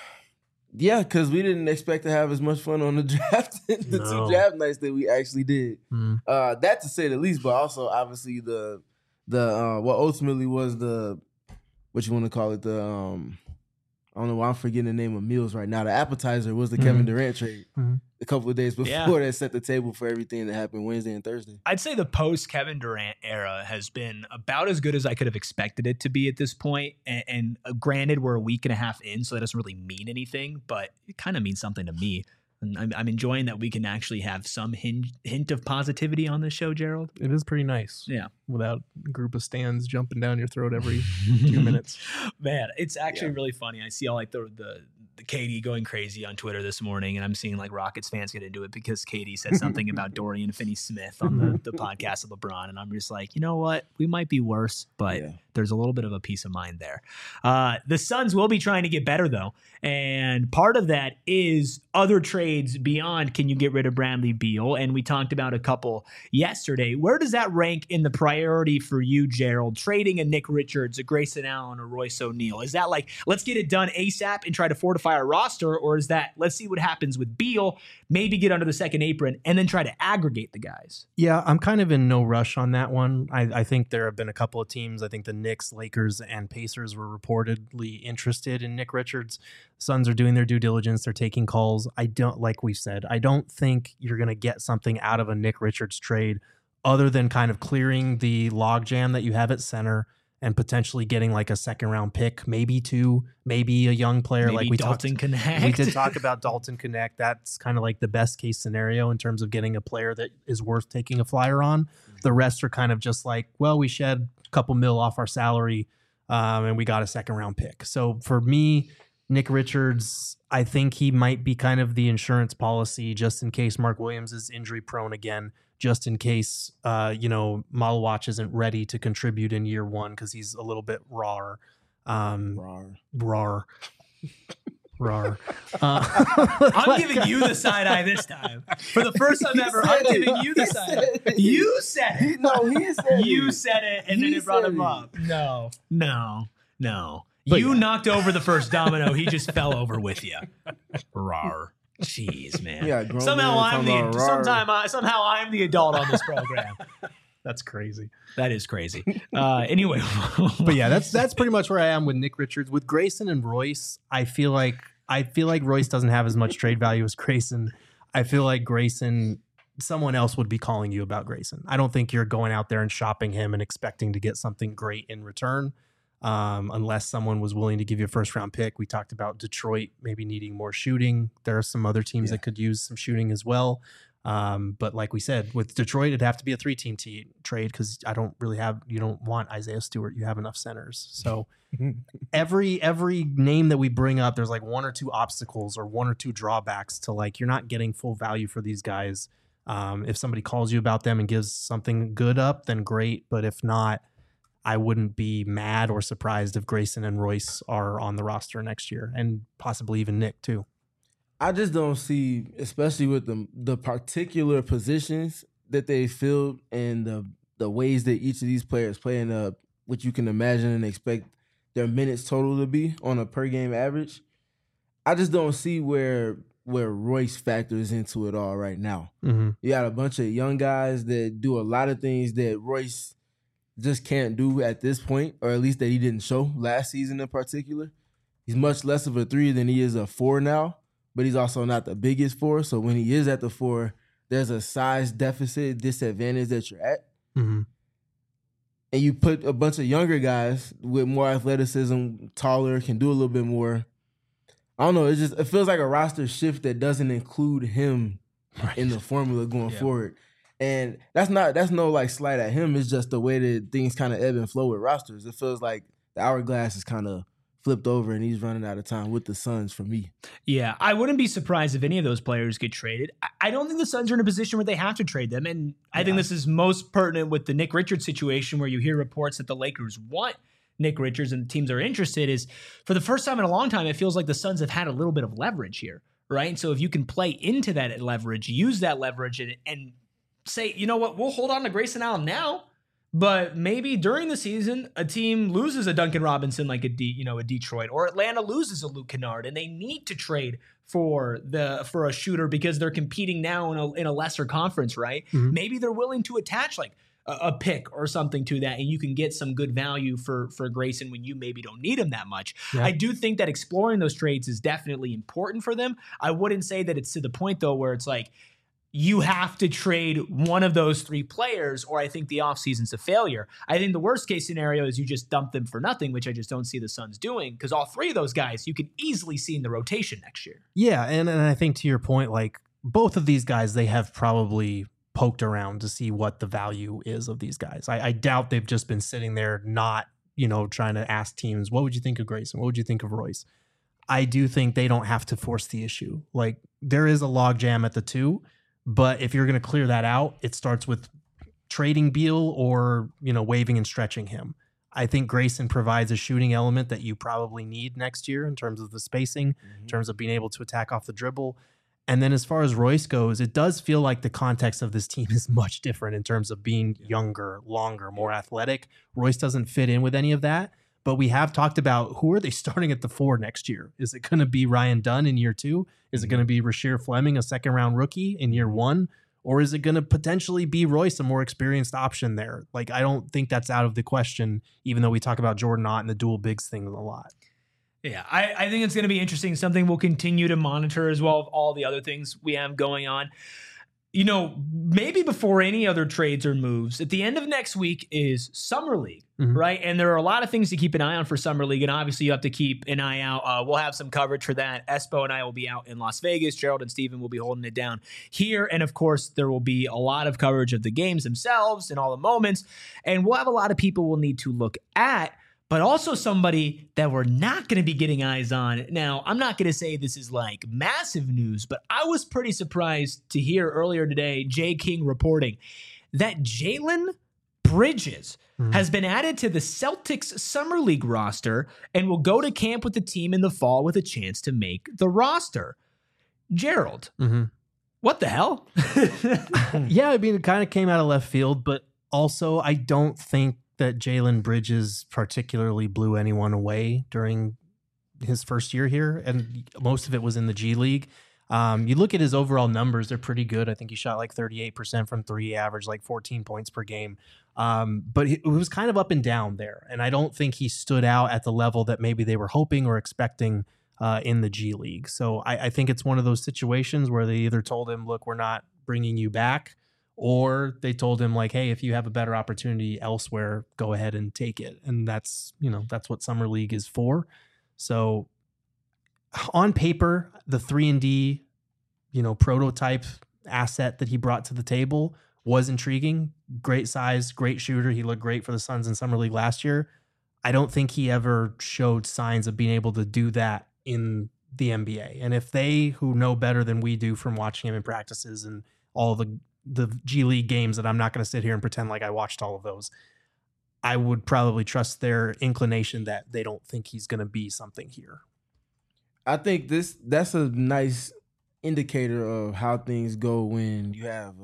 Yeah, because we didn't expect to have as much fun on the draft, the No. 2 draft nights that we actually did. Mm. That to say the least, but also obviously the what ultimately was the, what you want to call it, the I don't know why I'm forgetting the name of meals right now. The appetizer was the Kevin Durant trade a couple of days before that set the table for everything that happened Wednesday and Thursday. I'd say the post Kevin Durant era has been about as good as I could have expected it to be at this point. And granted, we're a week and a half in, so that doesn't really mean anything, but it kind of means something to me. And I'm enjoying that we can actually have some hint of positivity on this show, Gerald. It is pretty nice. Yeah. Without a group of stands jumping down your throat every 2 minutes. Man, it's actually really funny. I see all like the Katie going crazy on Twitter this morning, and I'm seeing like Rockets fans get into it because Katie said something about Dorian Finney-Smith on the podcast of LeBron, and I'm just like, you know what? We might be worse, but there's a little bit of a peace of mind there. The Suns will be trying to get better, though, and part of that is other trades beyond can you get rid of Bradley Beal, and we talked about a couple yesterday. Where does that rank in the priority for you, Gerald? Trading a Nick Richards, a Grayson Allen, or Royce O'Neal? Is that like, let's get it done ASAP and try to fortify our roster, or is that, let's see what happens with Beal, maybe get under the second apron, and then try to aggregate the guys? Yeah, I'm kind of in no rush on that one. I think there have been a couple of teams. I think the Knicks, Lakers, and Pacers were reportedly interested in Nick Richards. Suns are doing their due diligence. They're taking calls. I don't, like we said, I don't think you're going to get something out of a Nick Richards trade other than kind of clearing the logjam that you have at center and potentially getting like a second round pick, maybe 2, maybe a young player. Maybe like we Dalton Connect. We did talk about Dalton Connect. That's kind of like the best case scenario in terms of getting a player that is worth taking a flyer on. The rest are kind of just like, well, we shed a couple mil off our salary and we got a second round pick. So for me, Nick Richards, I think he might be kind of the insurance policy just in case Mark Williams is injury prone again, just in case, Malawach isn't ready to contribute in year 1 because he's a little bit raw. Rar. I'm giving you the side eye this time. For the first time ever, I'm giving you the side eye. You said it. No, he said it. You said it, and then it brought him up. No. But you knocked over the first domino. He just fell over with you. Rar. Jeez, man. Yeah, somehow I'm the adult on this program. That's crazy. That is crazy. Anyway, but yeah, that's pretty much where I am with Nick Richards. With Grayson and Royce, I feel like Royce doesn't have as much trade value as Grayson. I feel like Grayson, someone else would be calling you about Grayson. I don't think you're going out there and shopping him and expecting to get something great in return. Unless someone was willing to give you a first round pick. We talked about Detroit maybe needing more shooting. There are some other teams that could use some shooting as well. But like we said, with Detroit, it'd have to be a 3-team trade because you don't want Isaiah Stewart. You have enough centers. So every name that we bring up, there's like 1 or 2 obstacles or 1 or 2 drawbacks to like, you're not getting full value for these guys. If somebody calls you about them and gives something good up, then great. But if not, I wouldn't be mad or surprised if Grayson and Royce are on the roster next year and possibly even Nick too. I just don't see, especially with the particular positions that they filled and the ways that each of these players play and what you can imagine and expect their minutes total to be on a per game average. I just don't see where Royce factors into it all right now. Mm-hmm. You got a bunch of young guys that do a lot of things that Royce just can't do at this point, or at least that he didn't show last season in particular. He's much less of a 3 than he is a 4 now, but he's also not the biggest 4. So when he is at the 4, there's a size disadvantage that you're at. Mm-hmm. And you put a bunch of younger guys with more athleticism, taller, can do a little bit more. I don't know. It feels like a roster shift that doesn't include him in the formula going forward. And that's no like slight at him. It's just the way that things kind of ebb and flow with rosters. It feels like the hourglass is kind of flipped over and he's running out of time with the Suns for me. Yeah, I wouldn't be surprised if any of those players get traded. I don't think the Suns are in a position where they have to trade them. And I think this is most pertinent with the Nick Richards situation, where you hear reports that the Lakers want Nick Richards and the teams are interested. Is for the first time in a long time, it feels like the Suns have had a little bit of leverage here, right? And so if you can play into that leverage, use that leverage and say, you know what, we'll hold on to Grayson Allen now, but maybe during the season, a team loses a Duncan Robinson like a Detroit, or Atlanta loses a Luke Kennard, and they need to trade for a shooter because they're competing now in a lesser conference, right? Mm-hmm. Maybe they're willing to attach like a pick or something to that, and you can get some good value for Grayson when you maybe don't need him that much. Yeah. I do think that exploring those trades is definitely important for them. I wouldn't say that it's to the point though where it's like, you have to trade one of those three players, or I think the offseason's a failure. I think the worst case scenario is you just dump them for nothing, which I just don't see the Suns doing, because all three of those guys you can easily see in the rotation next year. Yeah, and I think to your point, like both of these guys, they have probably poked around to see what the value is of these guys. I doubt they've just been sitting there not, trying to ask teams, what would you think of Grayson? What would you think of Royce? I do think they don't have to force the issue. Like there is a logjam at the two, but if you're going to clear that out, it starts with trading Beal or, waiving and stretching him. I think Grayson provides a shooting element that you probably need next year in terms of the spacing, in terms of being able to attack off the dribble. And then as far as Royce goes, it does feel like the context of this team is much different in terms of being younger, longer, more athletic. Royce doesn't fit in with any of that. But we have talked about who are they starting at the 4 next year? Is it going to be Ryan Dunn in year 2? Is it going to be Rasheer Fleming, a second-round rookie in year 1? Or is it going to potentially be Royce, a more experienced option there? Like, I don't think that's out of the question, even though we talk about Jordan Ott and the dual bigs thing a lot. Yeah, I think it's going to be interesting. Something we'll continue to monitor as well of all the other things we have going on. Maybe before any other trades or moves, at the end of next week is Summer League, right? And there are a lot of things to keep an eye on for Summer League, and obviously you have to keep an eye out. We'll have some coverage for that. Espo and I will be out in Las Vegas. Gerald and Steven will be holding it down here, and of course, there will be a lot of coverage of the games themselves and all the moments, and we'll have a lot of people we'll need to look at, but also somebody that we're not going to be getting eyes on. Now, I'm not going to say this is like massive news, but I was pretty surprised to hear earlier today, Jay King reporting that Jalen Bridges has been added to the Celtics Summer League roster and will go to camp with the team in the fall with a chance to make the roster. Gerald, what the hell? Yeah, I mean, it kind of came out of left field, but also I don't think that Jalen Bridges particularly blew anyone away during his first year here, and most of it was in the G League. You look at his overall numbers, they're pretty good. I think he shot like 38% from 3, averaged like 14 points per game. But it was kind of up and down there, and I don't think he stood out at the level that maybe they were hoping or expecting in the G League. So I think it's one of those situations where they either told him, look, we're not bringing you back, or they told him like, hey, if you have a better opportunity elsewhere, go ahead and take it. And that's what Summer League is for. So on paper, the 3-and-D, prototype asset that he brought to the table was intriguing. Great size, great shooter. He looked great for the Suns in Summer League last year. I don't think he ever showed signs of being able to do that in the NBA. And if they, who know better than we do from watching him in practices and all the G League games that I'm not going to sit here and pretend like I watched all of those, I would probably trust their inclination that they don't think he's going to be something here. I think that's a nice indicator of how things go when you have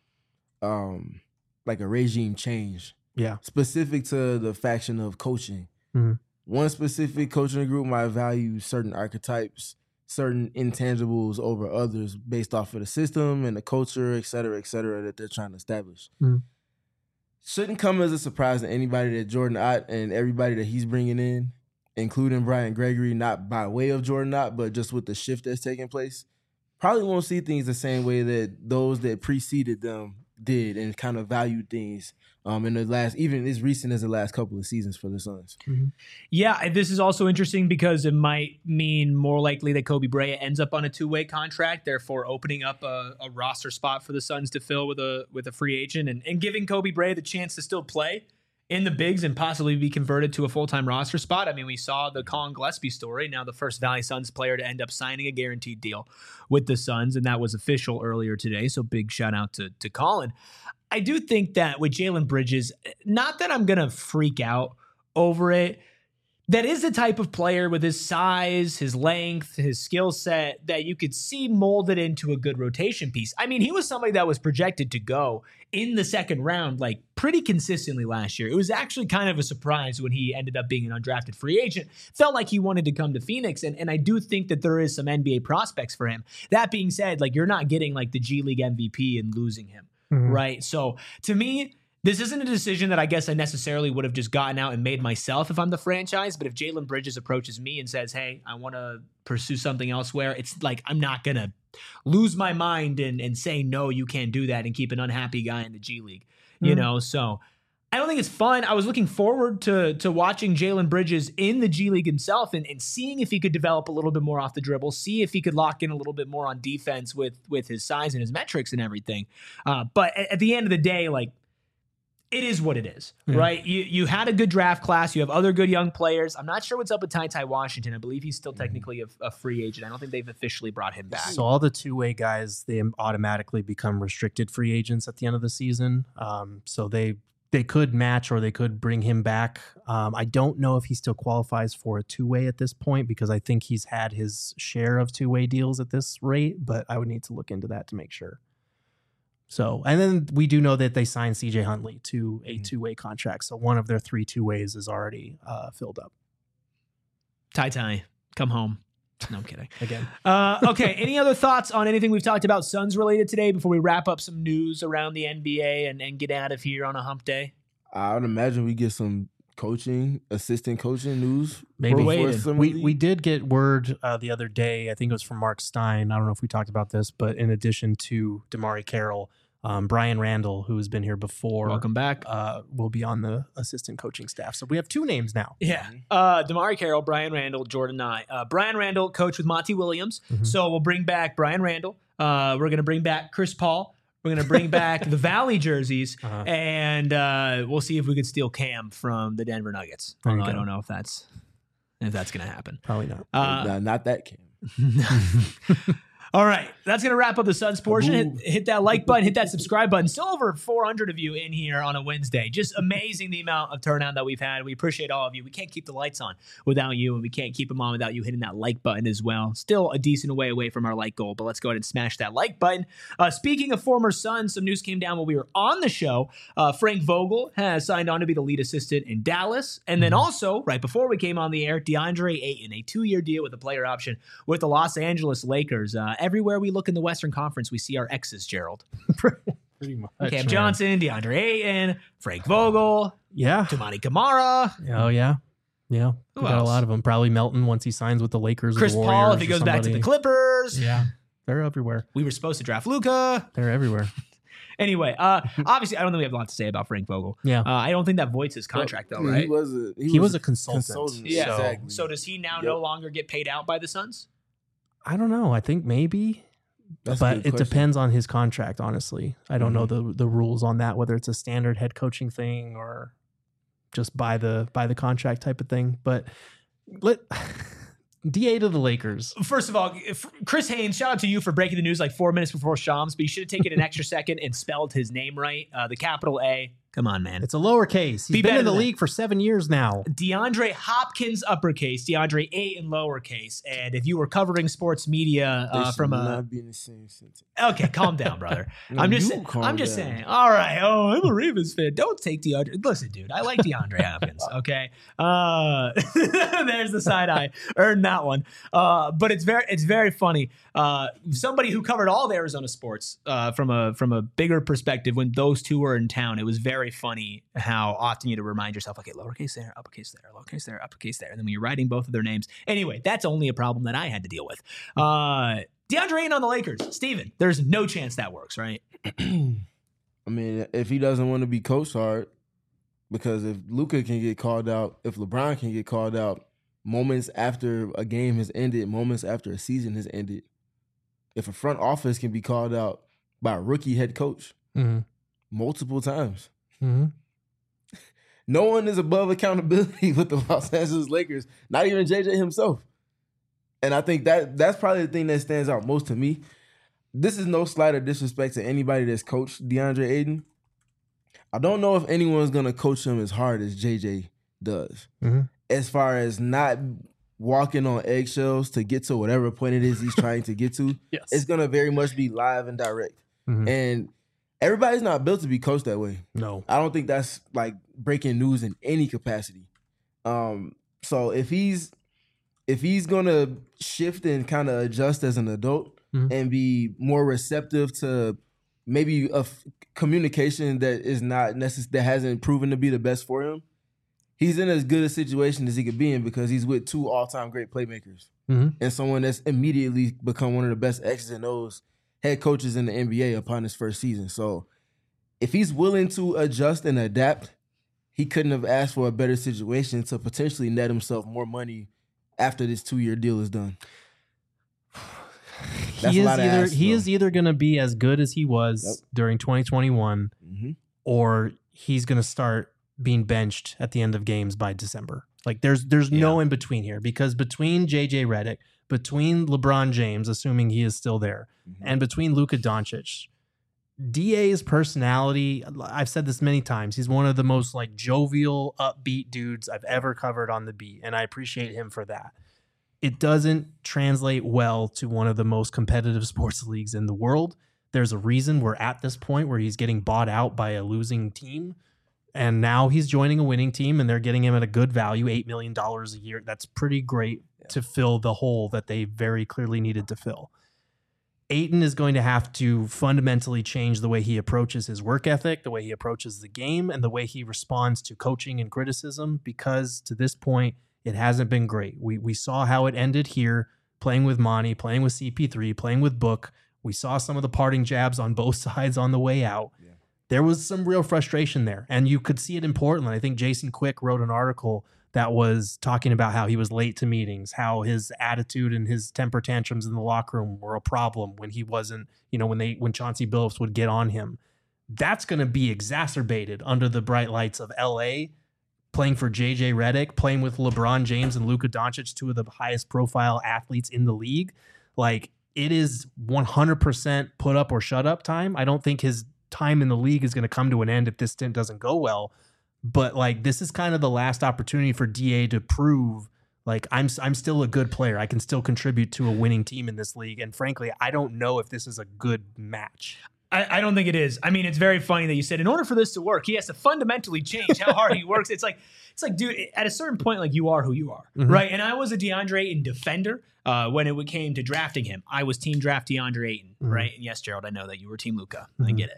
like a regime change. Yeah. Specific to the faction of coaching. One specific coaching group might value certain archetypes, certain intangibles over others based off of the system and the culture, et cetera, that they're trying to establish. Shouldn't come as a surprise to anybody that Jordan Ott and everybody that he's bringing in, including Brian Gregory, not by way of Jordan Ott, but just with the shift that's taking place, probably won't see things the same way that those that preceded them did and kind of valued things in the last, even as recent as the last couple of seasons for the Suns. Yeah, this is also interesting because it might mean more likely that Kobe Bryant ends up on a two-way contract, therefore opening up a roster spot for the Suns to fill with a free agent and giving Kobe Bryant the chance to still play in the bigs and possibly be converted to a full-time roster spot. I mean, we saw the Colin Gillespie story, now the first Valley Suns player to end up signing a guaranteed deal with the Suns, and that was official earlier today, so big shout-out to Colin. I do think that with Jalen Bridges, not that I'm going to freak out over it, that is the type of player with his size, his length, his skill set that you could see molded into a good rotation piece. I mean, he was somebody that was projected to go in the second round like pretty consistently last year. It was actually kind of a surprise when he ended up being an undrafted free agent. Felt like he wanted to come to Phoenix, and I do think that there is some NBA prospects for him. That being said, like, you're not getting like the G League MVP and losing him, right? So to me, this isn't a decision that I guess I necessarily would have just gotten out and made myself if I'm the franchise. But if Jalen Bridges approaches me and says, hey, I want to pursue something elsewhere, it's like I'm not going to lose my mind and say, no, you can't do that and keep an unhappy guy in the G League, you know? So I don't think it's fun. I was looking forward to watching Jalen Bridges in the G League himself and seeing if he could develop a little bit more off the dribble, see if he could lock in a little bit more on defense with his size and his metrics and everything. But at the end of the day, like, it is what it is, right? You had a good draft class. You have other good young players. I'm not sure what's up with Ty Washington. I believe he's still technically a free agent. I don't think they've officially brought him back. So all the two-way guys, they automatically become restricted free agents at the end of the season. So they could match or they could bring him back. I don't know if he still qualifies for a two-way at this point because I think he's had his share of two-way deals at this rate, but I would need to look into that to make sure. So, and then we do know that they signed CJ Huntley to a two-way contract. So one of their 3 two-ways is already filled up. Ty, come home. No, I'm kidding. Again. Okay. Any other thoughts on anything we've talked about Suns related today before we wrap up some news around the NBA and get out of here on a hump day? I would imagine we get some assistant coaching news. Maybe. We did get word the other day, I think it was from Mark Stein. I don't know if we talked about this, but in addition to DeMarre Carroll, Brian Randall, who has been here before, welcome back, will be on the assistant coaching staff. So we have 2 names now. Yeah. DeMarre Carroll, Brian Randall, Jordan Nye. Brian Randall coached with Monty Williams. So we'll bring back Brian Randall. We're going to bring back Chris Paul. We're going to bring back the Valley jerseys, and we'll see if we could steal Cam from the Denver Nuggets. I don't know if that's going to happen. Probably not. Not that Cam. All right, that's going to wrap up the Suns portion. Hit that like button, hit that subscribe button. Still over 400 of you in here on a Wednesday. Just amazing the amount of turnout that we've had. We appreciate all of you. We can't keep the lights on without you, and we can't keep them on without you hitting that like button as well. Still a decent way away from our like goal, but let's go ahead and smash that like button. Speaking of former Suns, some news came down while we were on the show. Frank Vogel has signed on to be the lead assistant in Dallas. And then also, right before we came on the air, DeAndre Ayton, a 2-year deal with a player option with the Los Angeles Lakers. Everywhere we look in the Western Conference, we see our exes, Gerald. Pretty much. Cam Johnson, DeAndre Ayton, Frank Vogel, Toumani Camara. Oh, yeah. Yeah. We got a lot of them. Probably Melton once he signs with the Lakers. Chris or the Paul if he goes back to the Clippers. Yeah. They're everywhere. We were supposed to draft Luka. They're everywhere. Anyway, obviously, I don't think we have a lot to say about Frank Vogel. Yeah. I don't think that voids his contract, though, right? He was a consultant. Yeah. Exactly. So does he now no longer get paid out by the Suns? I don't know. I think maybe. But it depends on his contract, honestly. I don't know the rules on that, whether it's a standard head coaching thing or just by the contract type of thing. But DA to the Lakers. First of all, Chris Haynes, shout out to you for breaking the news like 4 minutes before Shams, but you should have taken an extra second and spelled his name right. The capital A. Come on, man. It's a lowercase. He's been in the league for 7 years now. DeAndre Hopkins uppercase, DeAndre Ayton lowercase. And if you were covering sports media from not be in the same sentence. Okay, calm down, brother. I'm just saying. All right. Oh, I'm a Ravens fan. Don't take DeAndre. Listen, dude, I like DeAndre Hopkins. Okay. There's the side eye. Earned that one. But it's very funny. Somebody who covered all of Arizona sports from a bigger perspective when those two were in town, it was very funny how often you had to remind yourself, okay, lowercase there, uppercase there, lowercase there, uppercase there. And then when you're writing both of their names. Anyway, that's only a problem that I had to deal with. DeAndre Ayton on the Lakers. Steven, there's no chance that works, right? I mean, if he doesn't want to be coached hard, because if Luka can get called out, if LeBron can get called out moments after a game has ended, moments after a season has ended, if a front office can be called out by a rookie head coach multiple times, no one is above accountability with the Los Angeles Lakers, not even JJ himself. And I think that's probably the thing that stands out most to me. This is no slight or disrespect to anybody that's coached DeAndre Ayton. I don't know if anyone's going to coach him as hard as JJ does. As far as not walking on eggshells to get to whatever point it is he's trying to get to. Yes. It's going to very much be live and direct. And everybody's not built to be coached that way. No. I don't think that's like breaking news in any capacity. So if he's going to shift and kind of adjust as an adult and be more receptive to maybe a communication that is not that hasn't proven to be the best for him, he's in as good a situation as he could be in because he's with two all-time great playmakers and someone that's immediately become one of the best X's and O's head coaches in the NBA upon his first season. So if he's willing to adjust and adapt, he couldn't have asked for a better situation to potentially net himself more money after this 2-year deal is done. He is either going to be as good as he was during 2021 or he's going to start being benched at the end of games by December. Like there's no in between here, because between JJ Redick, between LeBron James, assuming he is still there, and between Luka Doncic, DA's personality, I've said this many times, he's one of the most like jovial, upbeat dudes I've ever covered on the beat, and I appreciate him for that. It doesn't translate well to one of the most competitive sports leagues in the world. There's a reason we're at this point where he's getting bought out by a losing team, and now he's joining a winning team, and they're getting him at a good value, $8 million a year. That's pretty great to fill the hole that they very clearly needed to fill. Ayton is going to have to fundamentally change the way he approaches his work ethic, the way he approaches the game, and the way he responds to coaching and criticism, because to this point, it hasn't been great. We saw how it ended here, playing with Monty, playing with CP3, playing with Book. We saw some of the parting jabs on both sides on the way out. Yeah. There was some real frustration there, and you could see it in Portland. I think Jason Quick wrote an article that was talking about how he was late to meetings, how his attitude and his temper tantrums in the locker room were a problem when he wasn't, when Chauncey Billups would get on him. That's going to be exacerbated under the bright lights of LA, playing for JJ Redick, playing with LeBron James and Luka Doncic, two of the highest profile athletes in the league. Like, it is 100% put up or shut up time. I don't think his time in the league is going to come to an end if this stint doesn't go well. But like, this is kind of the last opportunity for DA to prove like I'm still a good player. I can still contribute to a winning team in this league. And frankly, I don't know if this is a good match. I don't think it is. I mean, it's very funny that you said in order for this to work, he has to fundamentally change how hard he works. It's like, dude, at a certain point, like, you are who you are, right? And I was a DeAndre Ayton defender when it came to drafting him. I was team draft DeAndre Ayton, right? And yes, Gerald, I know that you were team Luka. I get it.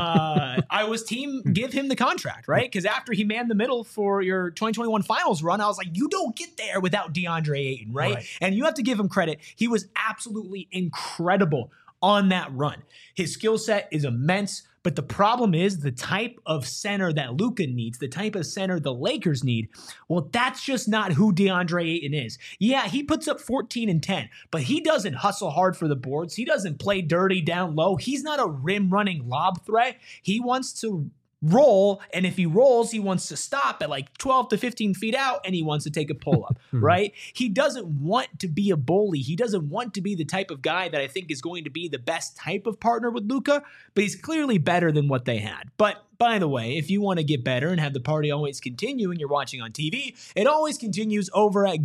I was team give him the contract, right? Because after he manned the middle for your 2021 finals run, I was like, you don't get there without DeAndre Ayton, right? And you have to give him credit. He was absolutely incredible on that run. His skill set is immense, but the problem is the type of center that Luka needs, the type of center the Lakers need, well, that's just not who DeAndre Ayton is. Yeah, he puts up 14 and 10, but he doesn't hustle hard for the boards. He doesn't play dirty down low. He's not a rim-running lob threat. He wants to roll, and if he rolls, he wants to stop at like 12 to 15 feet out, and he wants to take a pull-up, right? He doesn't want to be a bully. He doesn't want to be the type of guy that I think is going to be the best type of partner with Luka, but he's clearly better than what they had. But by the way, if you want to get better and have the party always continue and you're watching on TV, it always continues over at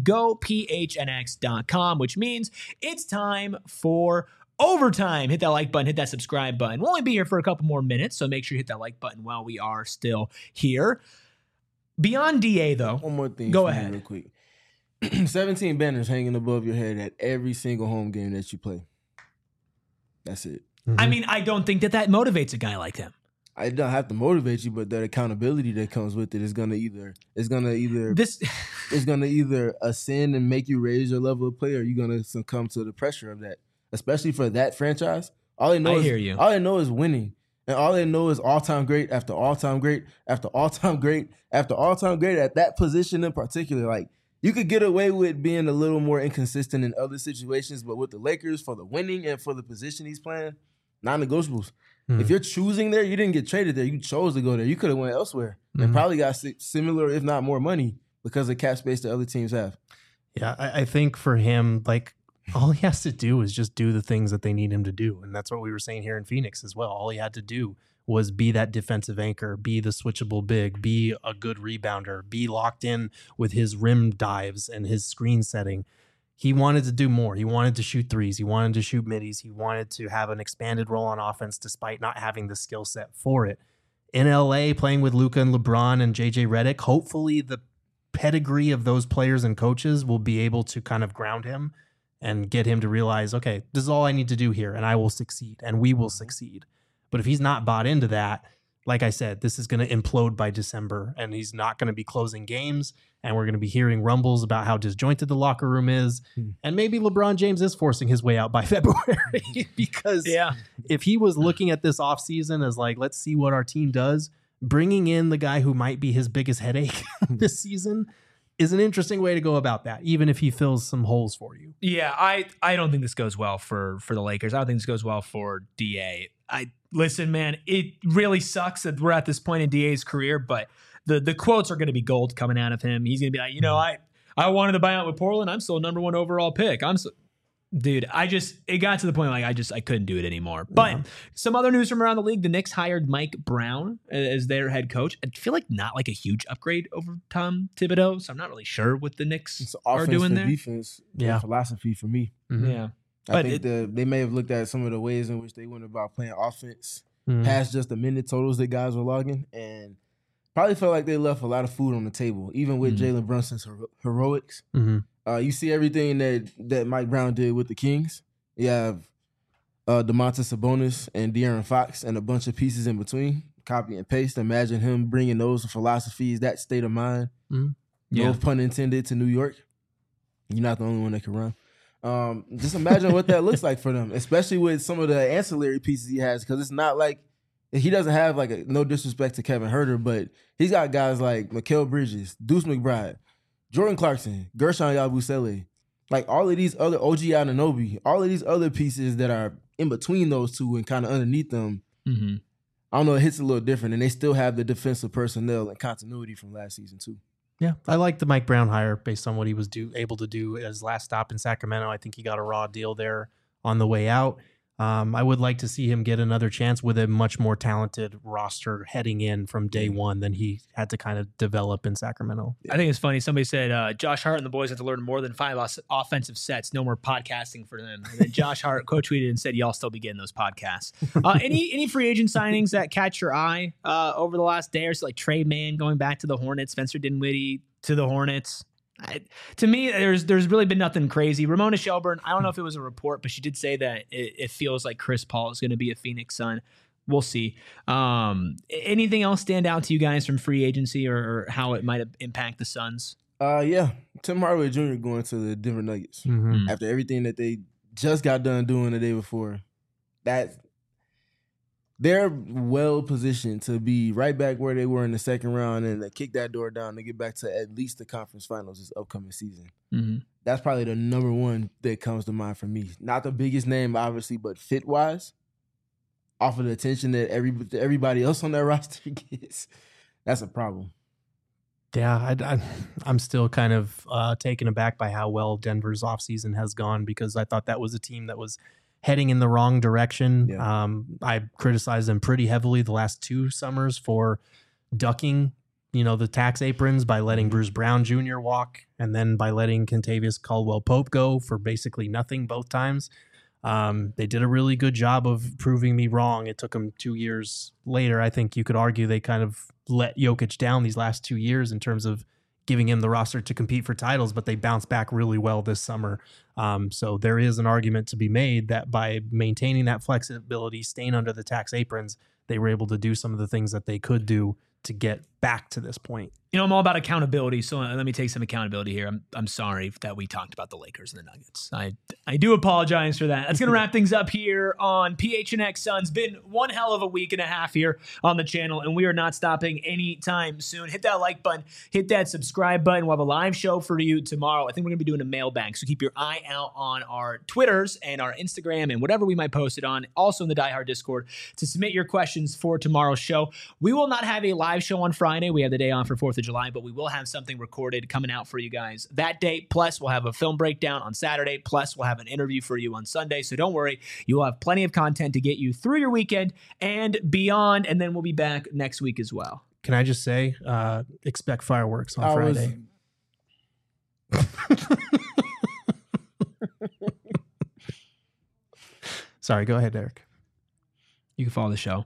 gophnx.com, which means it's time for overtime. Hit that like button, hit that subscribe button. We'll only be here for a couple more minutes, so make sure you hit that like button while we are still here. Beyond DA, though. One more thing. Go ahead. Real quick. 17 banners hanging above your head at every single home game that you play. That's it. I mean, I don't think that motivates a guy like him. I don't have to motivate you, but that accountability that comes with it is gonna either ascend and make you raise your level of play, or you're gonna succumb to the pressure of that. Especially for that franchise, all they know is winning. And all they know is all-time great after all-time great after all-time great after all-time great at that position in particular. Like, you could get away with being a little more inconsistent in other situations, but with the Lakers, for the winning and for the position he's playing, non-negotiables. If you're choosing there, you didn't get traded there. You chose to go there. You could have went elsewhere and probably got similar, if not more money because of cap space that other teams have. Yeah, I think for him, like, all he has to do is just do the things that they need him to do. And that's what we were saying here in Phoenix as well. All he had to do was be that defensive anchor, be the switchable big, be a good rebounder, be locked in with his rim dives and his screen setting. He wanted to do more. He wanted to shoot threes. He wanted to shoot middies. He wanted to have an expanded role on offense despite not having the skill set for it. In LA, playing with Luka and LeBron and JJ Redick, hopefully the pedigree of those players and coaches will be able to kind of ground him and get him to realize, okay, this is all I need to do here and I will succeed and we will succeed. But if he's not bought into that, like I said, this is going to implode by December and he's not going to be closing games and we're going to be hearing rumbles about how disjointed the locker room is. And maybe LeBron James is forcing his way out by February because if he was looking at this offseason as like, let's see what our team does, bringing in the guy who might be his biggest headache this season is an interesting way to go about that, even if he fills some holes for you. Yeah, I don't think this goes well for the Lakers. I don't think this goes well for DA. Listen, man, it really sucks that we're at this point in DA's career, but the quotes are going to be gold coming out of him. He's going to be like, I wanted to buy out with Portland. I'm still number 1 overall pick. Dude, it got to the point like I couldn't do it anymore. But some other news from around the league: the Knicks hired Mike Brown as their head coach. I feel like not like a huge upgrade over Tom Thibodeau, so I'm not really sure what the Knicks are doing there. Defense, philosophy for me. Mm-hmm. Yeah, I think they may have looked at some of the ways in which they went about playing offense past just the minute totals that guys were logging, and probably felt like they left a lot of food on the table, even with Jalen Brunson's heroics. You see everything that Mike Brown did with the Kings. You have Domantas Sabonis and De'Aaron Fox and a bunch of pieces in between. Copy and paste. Imagine him bringing those philosophies, that state of mind, no pun intended, to New York. You're not the only one that can run. Just imagine what that looks like for them, especially with some of the ancillary pieces he has, because it's not like he doesn't have no disrespect to Kevin Huerter, but he's got guys like Mikal Bridges, Deuce McBride, Jordan Clarkson, Gershon Yabusele, like all of these other OG Anunoby, all of these other pieces that are in between those two and kind of underneath them. I don't know, it hits a little different, and they still have the defensive personnel and continuity from last season too. Yeah, I like the Mike Brown hire based on what he was able to do at his last stop in Sacramento. I think he got a raw deal there on the way out. I would like to see him get another chance with a much more talented roster heading in from day one than he had to kind of develop in Sacramento. I think it's funny. Somebody said Josh Hart and the boys have to learn more than 5 offensive sets. No more podcasting for them. And then Josh Hart quote tweeted and said, "Y'all still be getting those podcasts." Any free agent signings that catch your eye over the last day or so, like Trey Mann going back to the Hornets, Spencer Dinwiddie to the Hornets? To me, there's really been nothing crazy. Ramona Shelburne, I don't know if it was a report, but she did say that it feels like Chris Paul is going to be a Phoenix Sun. We'll see. Anything else stand out to you guys from free agency or how it might impact the Suns? Tim Hardaway Jr. going to the Denver Nuggets after everything that they just got done doing the day before. They're well positioned to be right back where they were in the second round and to kick that door down to get back to at least the conference finals this upcoming season. That's probably the number one that comes to mind for me. Not the biggest name, obviously, but fit-wise, off of the attention that everybody else on that roster gets, that's a problem. Yeah, I'm still kind of taken aback by how well Denver's offseason has gone because I thought that was a team that was heading in the wrong direction. Yeah. I criticized them pretty heavily the last 2 summers for ducking, the tax aprons by letting Bruce Brown Jr. walk and then by letting Kentavious Caldwell-Pope go for basically nothing both times. They did a really good job of proving me wrong. It took them 2 years later. I think you could argue they kind of let Jokic down these last 2 years in terms of giving him the roster to compete for titles, but they bounced back really well this summer. So there is an argument to be made that by maintaining that flexibility, staying under the tax aprons, they were able to do some of the things that they could do to get back to this point. You know, I'm all about accountability, so let me take some accountability here. I'm sorry that we talked about the Lakers and the Nuggets. I do apologize for that. That's going to wrap things up here on PHNX Suns. Been one hell of a week and a half here on the channel, and we are not stopping anytime soon. Hit that like button, hit that subscribe button. We'll have a live show for you tomorrow. I think we're going to be doing a mailbag, so keep your eye out on our Twitters and our Instagram and whatever we might post it on. Also in the Die Hard Discord to submit your questions for tomorrow's show. We will not have a live show on Friday. We have the day off for 4th of July, but we will have something recorded coming out for you guys that day. Plus, we'll have a film breakdown on Saturday. Plus, we'll have an interview for you on Sunday. So don't worry, you'll have plenty of content to get you through your weekend and beyond. And then we'll be back next week as well. Can I just say, expect fireworks on Friday. Sorry, go ahead, Derek. You can follow the show.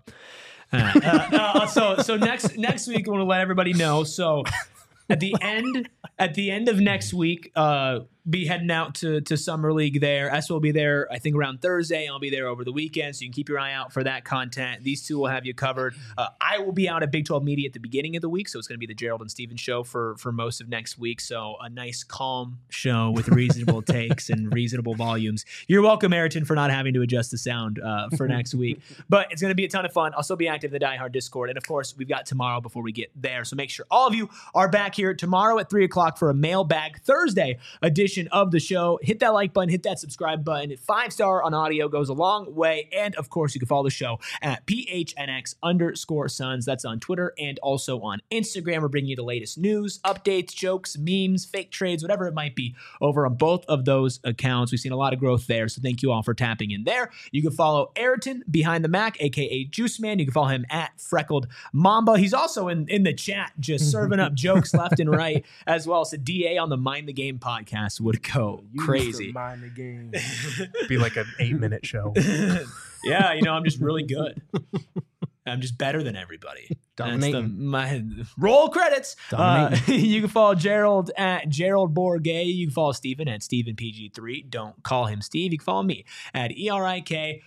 So next week, I want to let everybody know. So at the end of next week, be heading out to Summer League there. S will be there, I think, around Thursday. I'll be there over the weekend, so you can keep your eye out for that content. These two will have you covered. I will be out at Big 12 Media at the beginning of the week, so it's going to be the Gerald and Steven show for most of next week. So a nice, calm show with reasonable takes and reasonable volumes. You're welcome, Ayrton, for not having to adjust the sound for next week. But it's going to be a ton of fun. I'll still be active in the Die Hard Discord. And, of course, we've got tomorrow before we get there. So make sure all of you are back here tomorrow at 3 o'clock for a Mailbag Thursday edition of the show. Hit that like button, hit that subscribe button. 5-star on audio goes a long way. And of course, you can follow the show at PHNX_Suns. That's on Twitter and also on Instagram. We're bringing you the latest news, updates, jokes, memes, fake trades, whatever it might be over on both of those accounts. We've seen a lot of growth there. So thank you all for tapping in there. You can follow Ayrton behind the Mac, aka Juice Man. You can follow him at Freckled Mamba. He's also in the chat, just serving up jokes left and right as well. So DA on the Mind the Game podcast would go crazy. Mind the game. Be like an 8-minute show. Yeah, I'm just really good. I'm just better than everybody. Dominating. My roll credits. You can follow Gerald at Gerald Bourget. You can follow Steven at StevenPG3. Don't call him Steve. You can follow me at ERIKRUBY.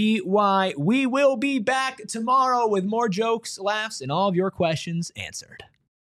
We will be back tomorrow with more jokes, laughs, and all of your questions answered.